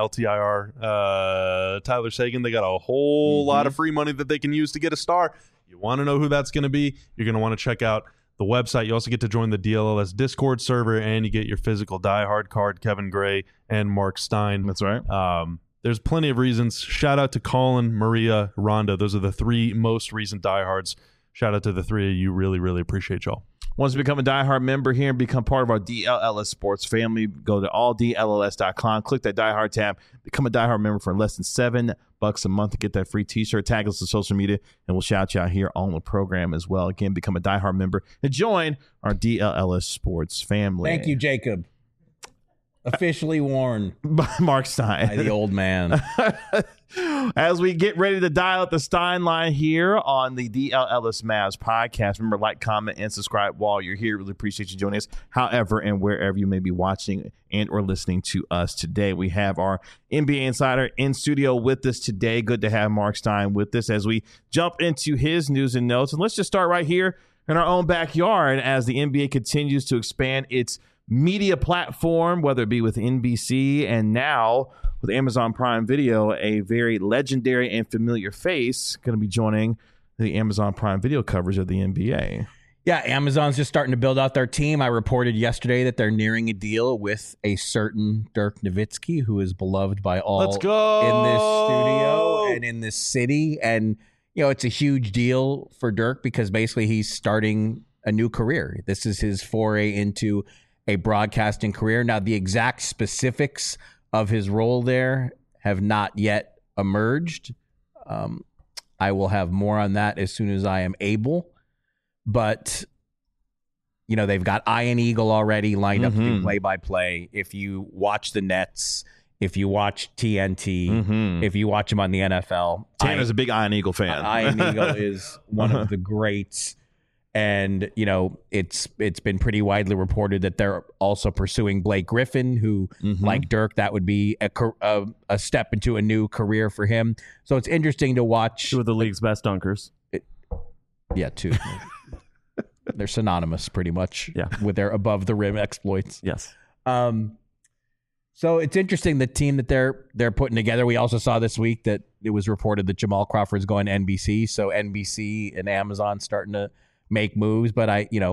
D: LTIR Tyler Seguin. They got a whole lot of free money that they can use to get a star. You want to know who that's going to be? You're going to want to check out the website. You also get to join the DLLS Discord server, and you get your physical diehard card, Kevin Gray and Mark Stein.
A: That's right.
D: There's plenty of reasons. Shout out to Colin, Maria, Rhonda. Those are the three most recent diehards. Shout out to the three of you. Really, really appreciate y'all.
A: Once you become a diehard member here and become part of our DLLS Sports family, go to alldlls.com, click that diehard tab, become a diehard member for less than $7 a month to get that free t-shirt. Tag us on social media, and we'll shout you out here on the program as well. Again, become a diehard member and join our DLLS Sports family.
C: Thank you, Jacob. Officially worn
A: by Mark Stein.
C: By the old man.
A: As we get ready to dial up the Stein line here on the DLLS Mavs podcast, remember, like, comment, and subscribe while you're here. Really appreciate you joining us, however and wherever you may be watching and or listening to us today. We have our NBA insider in studio with us today. Good to have Mark Stein with us as we jump into his news and notes. And let's just start right here in our own backyard as the NBA continues to expand its media platform, whether it be with NBC and now with Amazon Prime Video. A very legendary and familiar face going to be joining the Amazon Prime Video coverage of the NBA.
C: Yeah, Amazon's just starting to build out their team. I reported yesterday that they're nearing a deal with a certain Dirk Nowitzki, who is beloved by all
A: Let's go
C: in this studio and in this city. And, you know, it's a huge deal for Dirk because basically he's starting a new career. This is his foray into a broadcasting career. Now, the exact specifics of his role there have not yet emerged. I will have more on that as soon as I am able. But, you know, they've got Ian Eagle already lined up to do play-by-play. If you watch the Nets, if you watch TNT, if you watch him on the NFL.
A: Tanner's a big Ian Eagle fan.
C: Ian Eagle is one of the greats. And, you know, it's been pretty widely reported that they're also pursuing Blake Griffin, who, like Dirk, that would be a step into a new career for him. So it's interesting to watch.
B: Two of the league's best dunkers.
C: Yeah, two. They're synonymous pretty much with their above-the-rim exploits.
B: Yes.
C: So it's interesting, the team that they're putting together. We also saw this week that it was reported that Jamal Crawford's going to NBC. So NBC and Amazon starting to make moves. But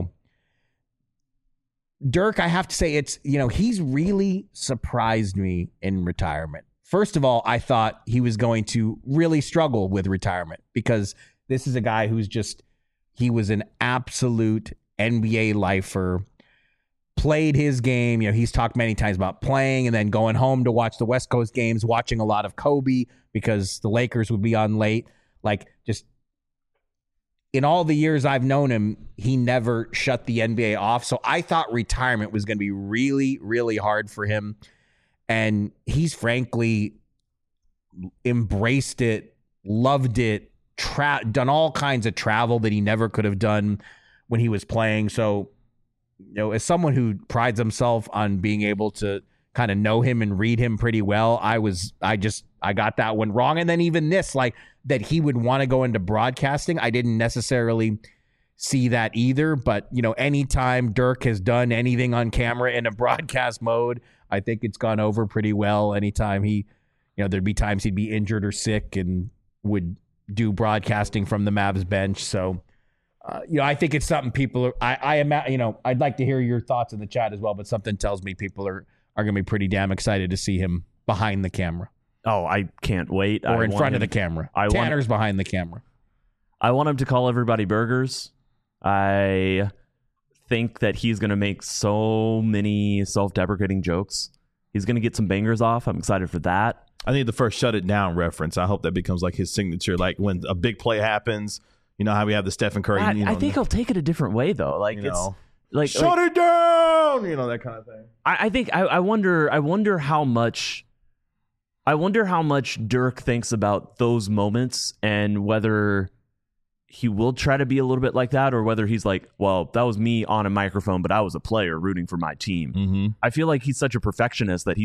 C: Dirk, I have to say, he's really surprised me in retirement. First of all, I thought he was going to really struggle with retirement because this is a guy he was an absolute NBA lifer, played his game. You know, he's talked many times about playing and then going home to watch the West Coast games, watching a lot of Kobe because the Lakers would be on late. Like, just in all the years I've known him, he never shut the NBA off. So I thought retirement was going to be really, really hard for him. And he's frankly embraced it, loved it, done all kinds of travel that he never could have done when he was playing. So, as someone who prides himself on being able to kind of know him and read him pretty well, I got that one wrong. And then even this, like that he would want to go into broadcasting, I didn't necessarily see that either. But, anytime Dirk has done anything on camera in a broadcast mode, I think it's gone over pretty well. Anytime there'd be times he'd be injured or sick and would do broadcasting from the Mavs bench. So, I think it's something people are, I'd like to hear your thoughts in the chat as well, but something tells me people are going to be pretty damn excited to see him behind the camera.
B: Oh, I can't wait.
C: Or in front of the camera. Tanner's behind the camera.
B: I want him to call everybody burgers. I think that he's going to make so many self-deprecating jokes. He's going to get some bangers off. I'm excited for that.
A: I think the first shut it down reference, I hope that becomes like his signature. Like when a big play happens, how we have the Stephen Curry.
B: I think he'll take it a different way though. Like
A: shut it down, that kind of thing.
B: I think I wonder how much Dirk thinks about those moments and whether he will try to be a little bit like that or whether he's like, well, that was me on a microphone, but I was a player rooting for my team.
A: Mm-hmm.
B: I feel like he's such a perfectionist that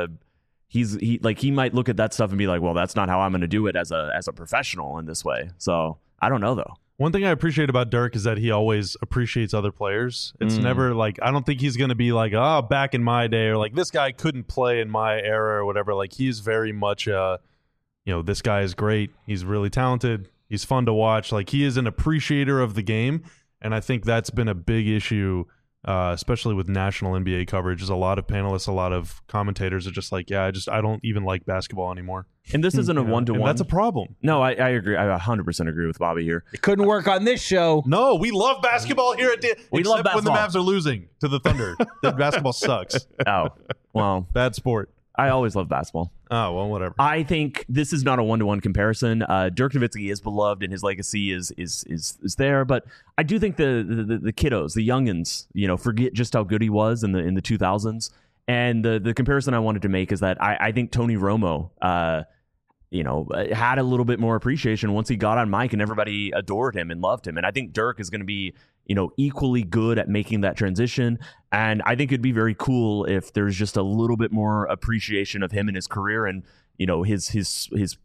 B: he might look at that stuff and be like, well, that's not how I'm going to do it as a professional in this way. So I don't know though.
D: One thing I appreciate about Dirk is that he always appreciates other players. It's never like, I don't think he's going to be like, back in my day, or like this guy couldn't play in my era or whatever. Like he's very much, this guy is great. He's really talented. He's fun to watch. Like he is an appreciator of the game. And I think that's been a big issue, especially with national NBA coverage, is a lot of panelists, a lot of commentators are just like, I don't even like basketball anymore.
B: And this isn't a one-to-one.
D: That's a problem.
B: No, I agree. I 100% agree with Bobby here.
C: It couldn't work on this show.
D: No, we love basketball here at
B: We love
D: except when the
B: basketball.
D: Mavs are losing to the Thunder. Then basketball sucks.
B: Oh, well,
D: Bad sport.
B: I always love basketball.
D: Oh, well, whatever.
B: I think this is not a one-to-one comparison. Dirk Nowitzki is beloved and his legacy is there, but I do think the kiddos, the youngins, forget just how good he was in the 2000s. And the comparison I wanted to make is that I think Tony Romo, had a little bit more appreciation once he got on mic and everybody adored him and loved him. And I think Dirk is going to be, equally good at making that transition. And I think it'd be very cool if there's just a little bit more appreciation of him and his career and, his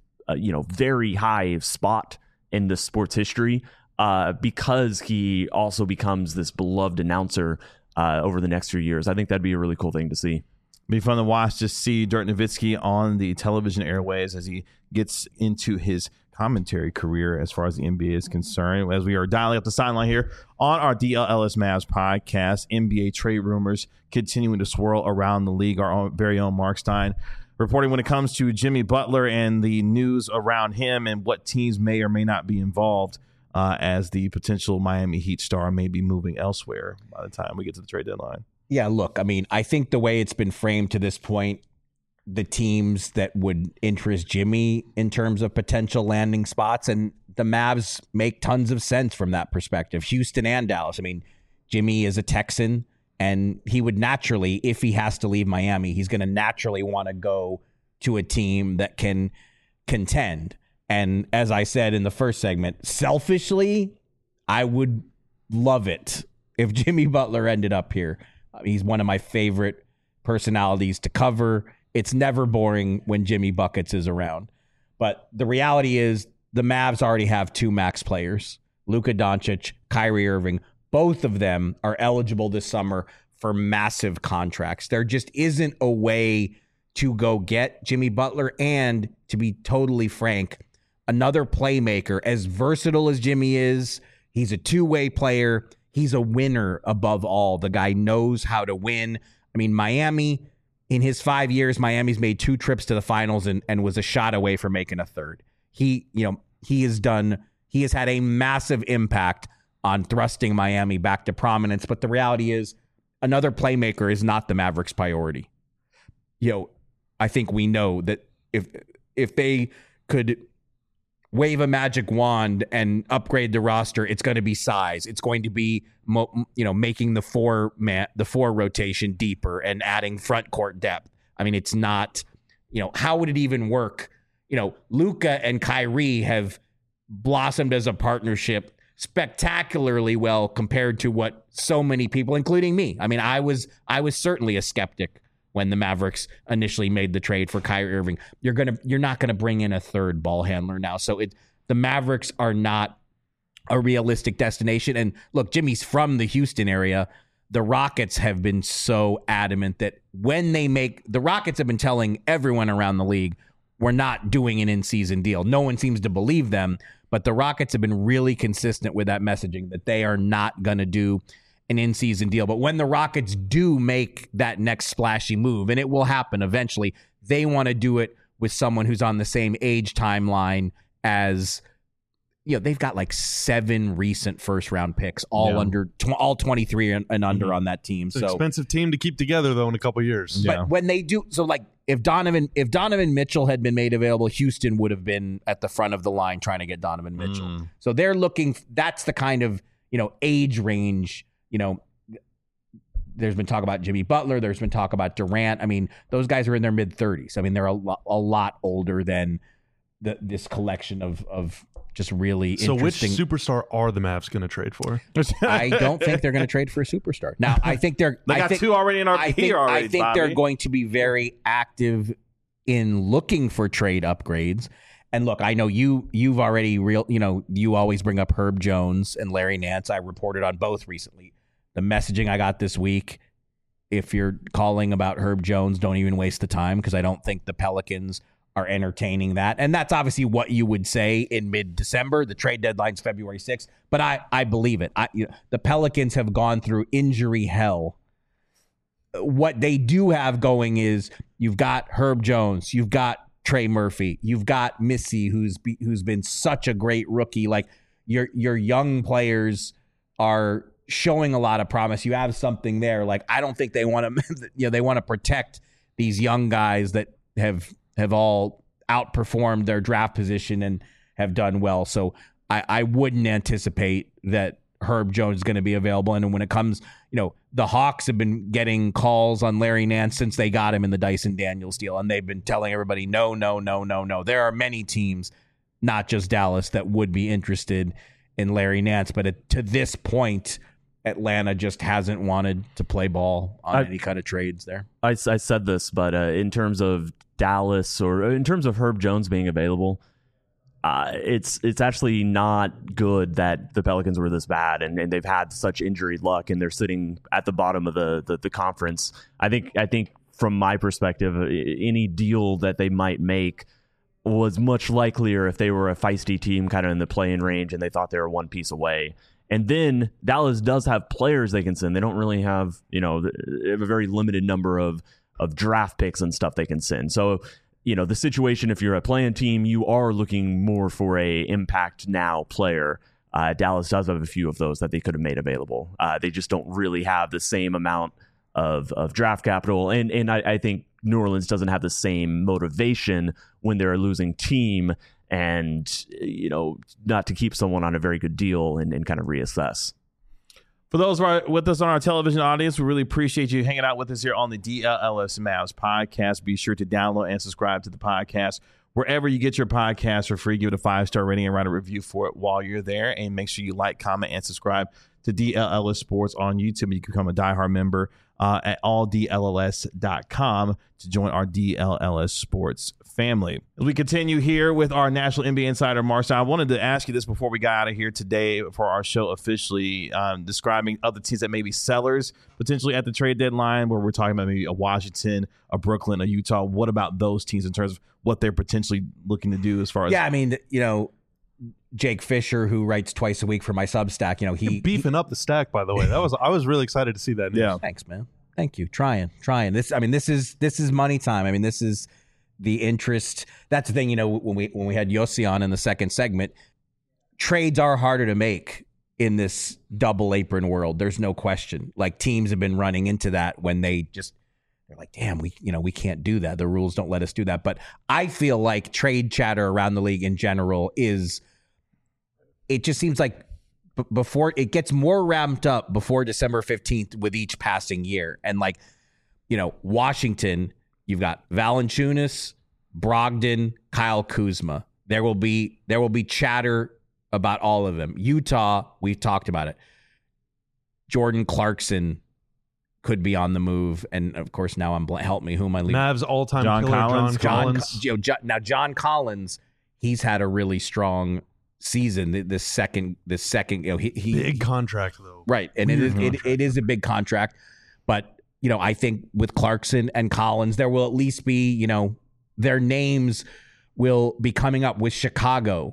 B: very high spot in the sports history, because he also becomes this beloved announcer over the next few years. I think that'd be a really cool thing to see.
A: Be fun to watch, just see Dirk Nowitzki on the television airways as he gets into his commentary career as far as the NBA is concerned. As we are dialing up the sideline here on our DLLS Mavs podcast, NBA trade rumors continuing to swirl around the league. Our very own Mark Stein reporting when it comes to Jimmy Butler and the news around him and what teams may or may not be involved as the potential Miami Heat star may be moving elsewhere by the time we get to the trade deadline.
C: Yeah, look, I mean, I think the way it's been framed to this point, the teams that would interest Jimmy in terms of potential landing spots, and the Mavs make tons of sense from that perspective. Houston and Dallas. I mean, Jimmy is a Texan, and he would naturally, if he has to leave Miami, he's going to naturally want to go to a team that can contend. And as I said in the first segment, selfishly, I would love it if Jimmy Butler ended up here. He's one of my favorite personalities to cover. It's never boring when Jimmy Buckets is around. But the reality is the Mavs already have two max players, Luka Doncic, Kyrie Irving. Both of them are eligible this summer for massive contracts. There just isn't a way to go get Jimmy Butler. And to be totally frank, another playmaker, as versatile as Jimmy is, he's a two-way player. He's a winner above all. The guy knows how to win. I mean, Miami, in his 5 years, Miami's made 2 trips to the finals and was a shot away from making a third. He has had a massive impact on thrusting Miami back to prominence. But the reality is, another playmaker is not the Mavericks' priority. I think we know that if they could wave a magic wand and upgrade the roster, it's going to be size. It's going to be, making the four rotation deeper and adding front court depth. I mean, it's not, how would it even work Luka and Kyrie have blossomed as a partnership spectacularly well compared to what so many people, including me. I mean, I was certainly a skeptic when the Mavericks initially made the trade for Kyrie Irving. You're not gonna bring in a third ball handler now. So the Mavericks are not a realistic destination. And look, Jimmy's from the Houston area. The Rockets have been so adamant that when the Rockets have been telling everyone around the league, we're not doing an in-season deal. No one seems to believe them, but the Rockets have been really consistent with that messaging that they are not going to do an in-season deal. But when the Rockets do make that next splashy move, and it will happen eventually, they want to do it with someone who's on the same age timeline as, they've got like 7 recent first-round picks, all under all 23 and under on that team.
D: It's an expensive team to keep together, though, in a couple years.
C: But when they do, so like if Donovan Mitchell had been made available, Houston would have been at the front of the line trying to get Donovan Mitchell. So they're looking. That's the kind of age range. There's been talk about Jimmy Butler. There's been talk about Durant. I mean, those guys are in their mid-30s. I mean, they're a lot older than this collection of just really interesting.
D: So which superstar are the Mavs going to trade for?
C: I don't think they're going to trade for a superstar. Now, I think
A: they got 2 already in our here already.
C: I think they're going to be very active in looking for trade upgrades. And look, I know you've already you always bring up Herb Jones and Larry Nance. I reported on both recently. The messaging I got this week, if you're calling about Herb Jones, don't even waste the time, because I don't think the Pelicans are entertaining that. And that's obviously what you would say in mid-December. The trade deadline's February 6th. But I believe it. The Pelicans have gone through injury hell. What they do have going is you've got Herb Jones, you've got Trey Murphy, you've got Missy, who's been such a great rookie. Like your young players are showing a lot of promise. You have something there. Like, I don't think they want to, they want to protect these young guys that have all outperformed their draft position and have done well. So I wouldn't anticipate that Herb Jones is going to be available. And when it comes, the Hawks have been getting calls on Larry Nance since they got him in the Dyson Daniels deal. And they've been telling everybody, no. There are many teams, not just Dallas, that would be interested in Larry Nance. But to this point, Atlanta just hasn't wanted to play ball on any kind of trades there.
B: I said this, but in terms of Dallas or in terms of Herb Jones being available, it's actually not good that the Pelicans were this bad and they've had such injury luck and they're sitting at the bottom of the conference. I think from my perspective, any deal that they might make was much likelier if they were a feisty team kind of in the play-in range and they thought they were one piece away. And then Dallas does have players they can send. They don't really have, they have a very limited number of draft picks and stuff they can send. So, the situation, if you're a play-in team, you are looking more for a impact now player. Dallas does have a few of those that they could have made available. They just don't really have the same amount of draft capital. And I think New Orleans doesn't have the same motivation when they're a losing team and, not to keep someone on a very good deal and kind of reassess.
A: For those who are with us on our television audience, we really appreciate you hanging out with us here on the DLLS Mavs podcast. Be sure to download and subscribe to the podcast wherever you get your podcast for free. Give it a 5-star rating and write a review for it while you're there. And make sure you like, comment, and subscribe to DLLS Sports on YouTube. You can become a diehard member at alldlls.com to join our DLLS Sports family. As we continue here with our National NBA Insider, Mark Stein, I wanted to ask you this before we got out of here today for our show officially, describing other teams that may be sellers potentially at the trade deadline, where we're talking about maybe a Washington, a Brooklyn, a Utah. What about those teams in terms of what they're potentially looking to do as far as...
C: Yeah, I mean, Jake Fisher, who writes twice a week for my Substack,
D: You're beefing up the stack, by the way. I was really excited to see that news.
C: Yeah. Thanks, man. Thank you. Trying. This is money time. I mean, this is the interest. That's the thing, when we had Yossi on in the second segment, trades are harder to make in this double apron world. There's no question. Like, teams have been running into that when they're like, damn, we can't do that. The rules don't let us do that. But I feel like trade chatter around the league in general it just seems like before it gets more ramped up before December 15th with each passing year. And Washington, you've got Valanciunas, Brogdon, Kyle Kuzma. There will be chatter about all of them. Utah, we've talked about it. Jordan Clarkson could be on the move, and of course now help me. Who am I leaving?
D: Mavs all-time
A: John
D: killer,
A: Collins.
D: John Collins.
C: Now John Collins, he's had a really strong season. This second, he
D: Big contract though.
C: right, and it is a big contract, but I think with Clarkson and Collins, there will at least be their names will be coming up with Chicago.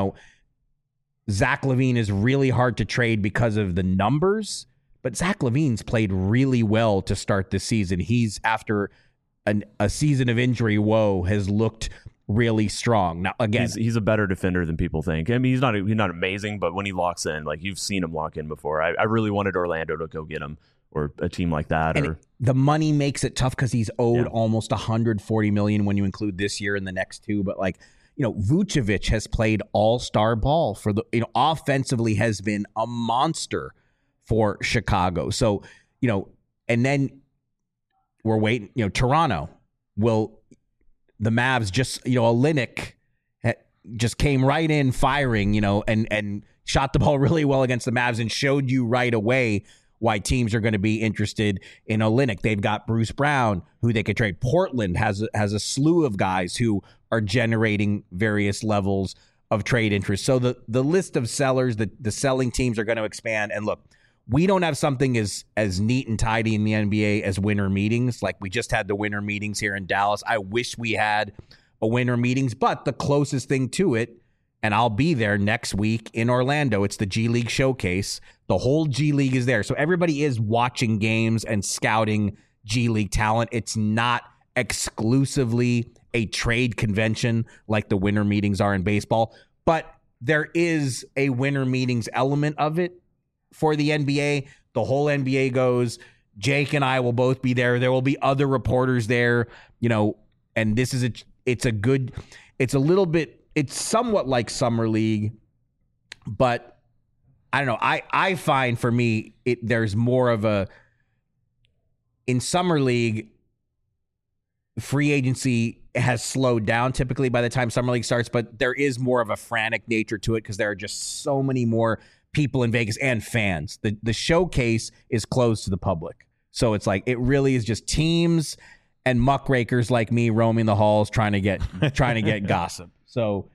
C: Zach LaVine is really hard to trade because of the numbers. But Zach LaVine's played really well to start this season. He's, after a season of injury woe, has looked really strong. Now, again,
B: he's a better defender than people think. I mean, he's not amazing, but when he locks in, like you've seen him lock in before. I really wanted Orlando to go get him, or a team like that.
C: And the money makes it tough because he's owed almost $140 million when you include this year and the next two. But Vucevic has played all-star ball for the offensively has been a monster for Chicago. So, and then we're waiting, Toronto the Mavs just, Olynyk just came right in firing, and shot the ball really well against the Mavs and showed you right away why teams are going to be interested in Olynyk. They've got Bruce Brown, who they could trade. Portland has a slew of guys who are generating various levels of trade interest. So the list of sellers, the selling teams are going to expand. And look, we don't have something as neat and tidy in the NBA as winter meetings. Like we just had the winter meetings here in Dallas. I wish we had a winter meetings, but the closest thing to it, and I'll be there next week in Orlando, it's the G League Showcase. The whole G League is there. So everybody is watching games and scouting G League talent. It's not exclusively a trade convention like the winter meetings are in baseball, but there is a winter meetings element of it. For the NBA, the whole NBA goes. Jake and I will both be there. There will be other reporters there, and this is it's somewhat like Summer League, but I don't know. I find for me, there's more of in Summer League, free agency has slowed down typically by the time Summer League starts, but there is more of a frantic nature to it because there are just so many more people in Vegas and fans. The showcase is closed to the public. So it's like it really is just teams and muckrakers like me roaming the halls trying to get gossip. So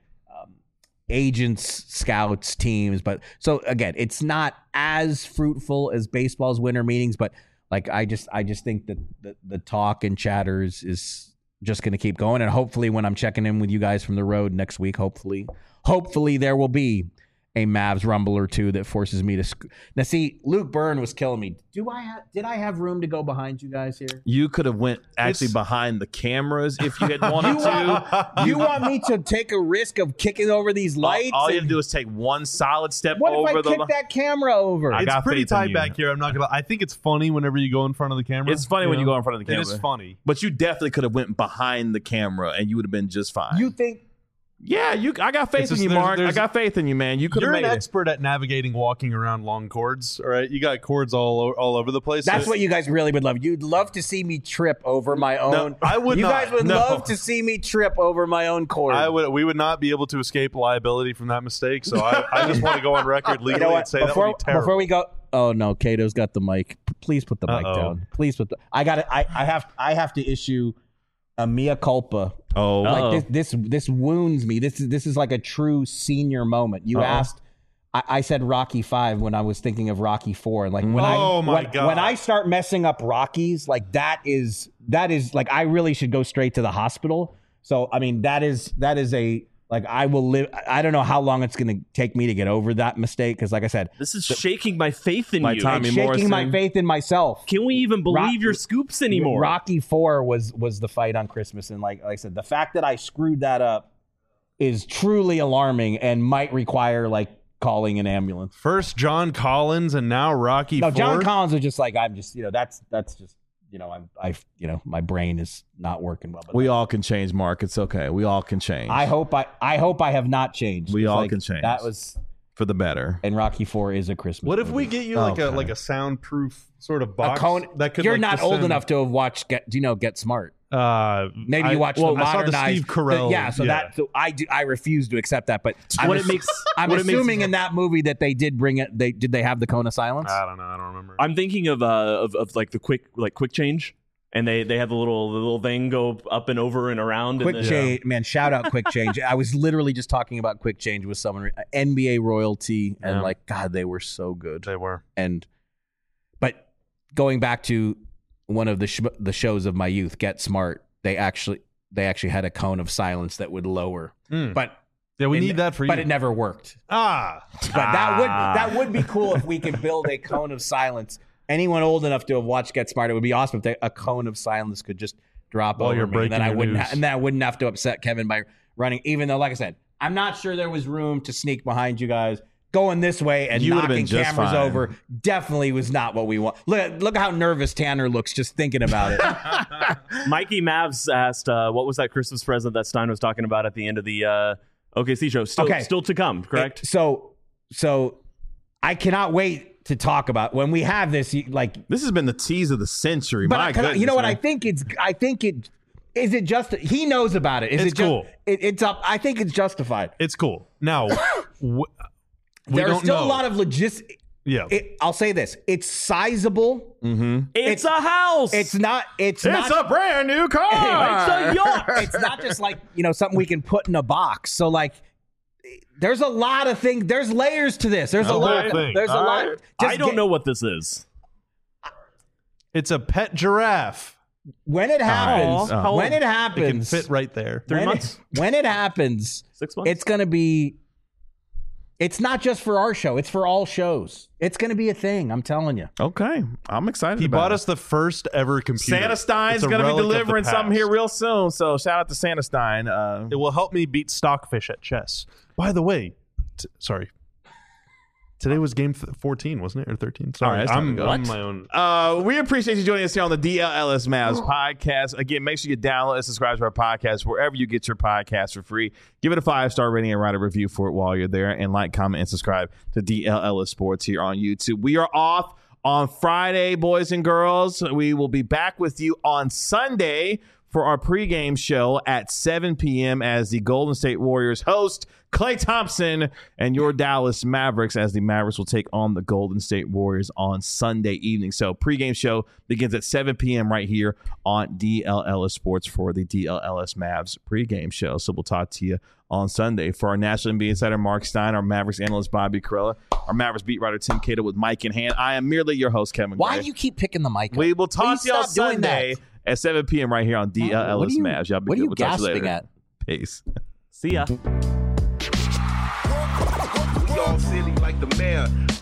C: agents, scouts, teams, but so again, it's not as fruitful as baseball's winter meetings, but like I just think that the talk and chatters is just going to keep going, and hopefully when I'm checking in with you guys from the road next week, hopefully there will be a Mavs rumble or two that forces me to. Now, see, Luke Byrne was killing me. Did I have room to go behind you guys here?
A: You could have went behind the cameras if you had wanted to.
C: You want me to take a risk of kicking over these lights?
A: All you have to do is take one solid step
C: what
A: over.
C: What if I kick that camera over?
D: It's pretty tight back here. I'm not gonna. I think it's funny whenever you go in front of the camera.
A: It's funny when you go in front of the camera.
D: It is funny,
A: but you definitely could have went behind the camera and you would have been just fine.
C: You think?
A: Yeah, I got faith in you, Mark. I got faith in you, man.
D: You're an expert at navigating walking around long cords, all right? You got cords all over the place.
C: That's what you guys really would love. You'd love to see me trip over my own.
D: No, I would
C: you
D: not.
C: guys would love to see me trip over my own cord.
D: We would not be able to escape liability from that mistake. So I just want to go on record legally and say that would be terrible.
C: Before we go, oh no, Cato's got the mic. Please put the mic down. Please put the. I got it. I have to issue a mea culpa.
A: Oh,
C: like this wounds me. This is like a true senior moment. You asked. I said Rocky 5 when I was thinking of Rocky 4. And like when I start messing up Rockies, like that is like I really should go straight to the hospital. So I mean that is a like I will live. I don't know how long it's going to take me to get over that mistake because, like I said,
B: this is shaking my faith in you.
C: I'm shaking my faith in myself.
B: Can we even believe your scoops anymore?
C: Rocky 4 was the fight on Christmas, and like I said, the fact that I screwed that up is truly alarming and might require like calling an ambulance.
D: First John Collins, and now Rocky 4.
C: John Collins was just like I'm just that's just. My brain is not working well. But
A: we all can change, Mark. It's okay. We all can change.
C: I hope I have not changed.
A: We all can change.
C: That was
A: for the better.
C: And Rocky 4 is a Christmas.
D: What if
C: movie.
D: we get you like a soundproof sort of box
C: that could? You're not old enough to have watched Get Smart. Maybe you watch the
D: I saw the
C: modernized.
D: Steve Carell.
C: So I refuse to accept that. But
B: What it makes.
C: I'm
B: what it makes-
C: assuming in that movie that they did bring it. Did they have the cone of silence?
D: I don't know. I don't remember.
B: I'm thinking of like the quick change, and they have the little thing go up and over and around.
C: Quick
B: and
C: change, man! Shout out Quick Change. I was literally just talking about Quick Change with someone, NBA royalty, and
D: Yeah.
C: God, they were so good.
D: They were.
C: But going back to one of the shows of my youth, Get Smart, they actually had a cone of silence that would lower, but
D: Yeah, we need that for you.
C: but it never worked.
D: Ah,
C: But that would be cool if we could build a cone of silence. Anyone old enough to have watched Get Smart, it would be awesome if a cone of silence could just drop
D: While
C: over
D: you're
C: me, and then
D: breaking
C: I
D: your
C: wouldn't
D: news.
C: and then I wouldn't have to upset Kevin by running. Even though, like I said, I'm not sure there was room to sneak behind you guys. Going this way and
A: You would've
C: knocking
A: been just
C: cameras
A: fine.
C: over definitely was not what we want. Look how nervous Tanner looks just thinking about it.
B: Mikey Mavs asked, "What was that Christmas present that Stein was talking about at the end of the OKC show?" Still to come, correct?
C: So I cannot wait to talk about when we have this. Like,
A: This has been the tease of the century.
C: but
A: My goodness,
C: you know what?
A: man.
C: I think it is it just he knows about it. Is
D: It's
C: it just,
D: cool.
C: It's up. I think it's justified.
D: it's cool. Now, we
C: There's
D: don't
C: still
D: know.
C: a lot of logistics.
D: Yeah.
C: I'll say this: it's sizable.
B: It's a house.
C: It's not. It's
A: It's
C: not.
A: a brand new car.
B: It's a yacht.
C: It's not just like something we can put in a box. So like, there's a lot of things. There's layers to this. There's a lot.
D: thing.
C: There's a
A: All
C: lot.
A: right.
B: I don't know what this is.
D: It's a pet giraffe.
C: When it happens.
B: Aw, how
C: When
B: old?
C: it
D: It can
C: happens.
D: fit right there.
B: 3
C: when
B: months?
C: When it happens,
B: 6 months?
C: it's going to be. It's not just for our show. It's for all shows. It's going to be a thing. I'm telling you.
A: Okay, I'm excited.
D: He
A: about
D: bought
A: it.
D: us the first ever computer.
A: Santa Stein's
D: It's a
A: going to be
D: relic of the
A: delivering something
D: past.
A: here real soon. So shout out to Santa Stein.
D: It will help me beat Stockfish at chess. By the way, sorry. Today was game 14, wasn't it? Or 13? Sorry,
A: All right, it's time to go.
D: I'm my own.
A: We appreciate you joining us here on the DLLS Mavs podcast. Again, make sure you download and subscribe to our podcast wherever you get your podcast for free. Give it a 5-star rating and write a review for it while you're there. And like, comment, and subscribe to DLLS Sports here on YouTube. We are off on Friday, boys and girls. We will be back with you on Sunday for our pregame show at 7 p.m. as the Golden State Warriors host Klay Thompson and your Dallas Mavericks, as the Mavericks will take on the Golden State Warriors on Sunday evening. So pregame show begins at 7 p.m. right here on DLLS Sports for the DLLS Mavs pregame show. So we'll talk to you on Sunday. For our National NBA insider Mark Stein, our Mavericks analyst Bobby Carella, our Mavericks beat writer Tim Cato with Mike in hand, I am merely your host, Kevin
C: Why
A: Gray.
C: do you keep picking the mic up?
A: We will talk
C: Please
A: to you on
C: stop doing
A: Sunday
C: that.
A: at 7 p.m. right here on DLLS
C: What are you-
A: Mavs. Y'all be
C: what are
A: good.
C: you
A: We'll talk to you
C: gasping
A: later.
C: at?
A: Peace.
B: See ya.
F: Y'all silly like the mayor.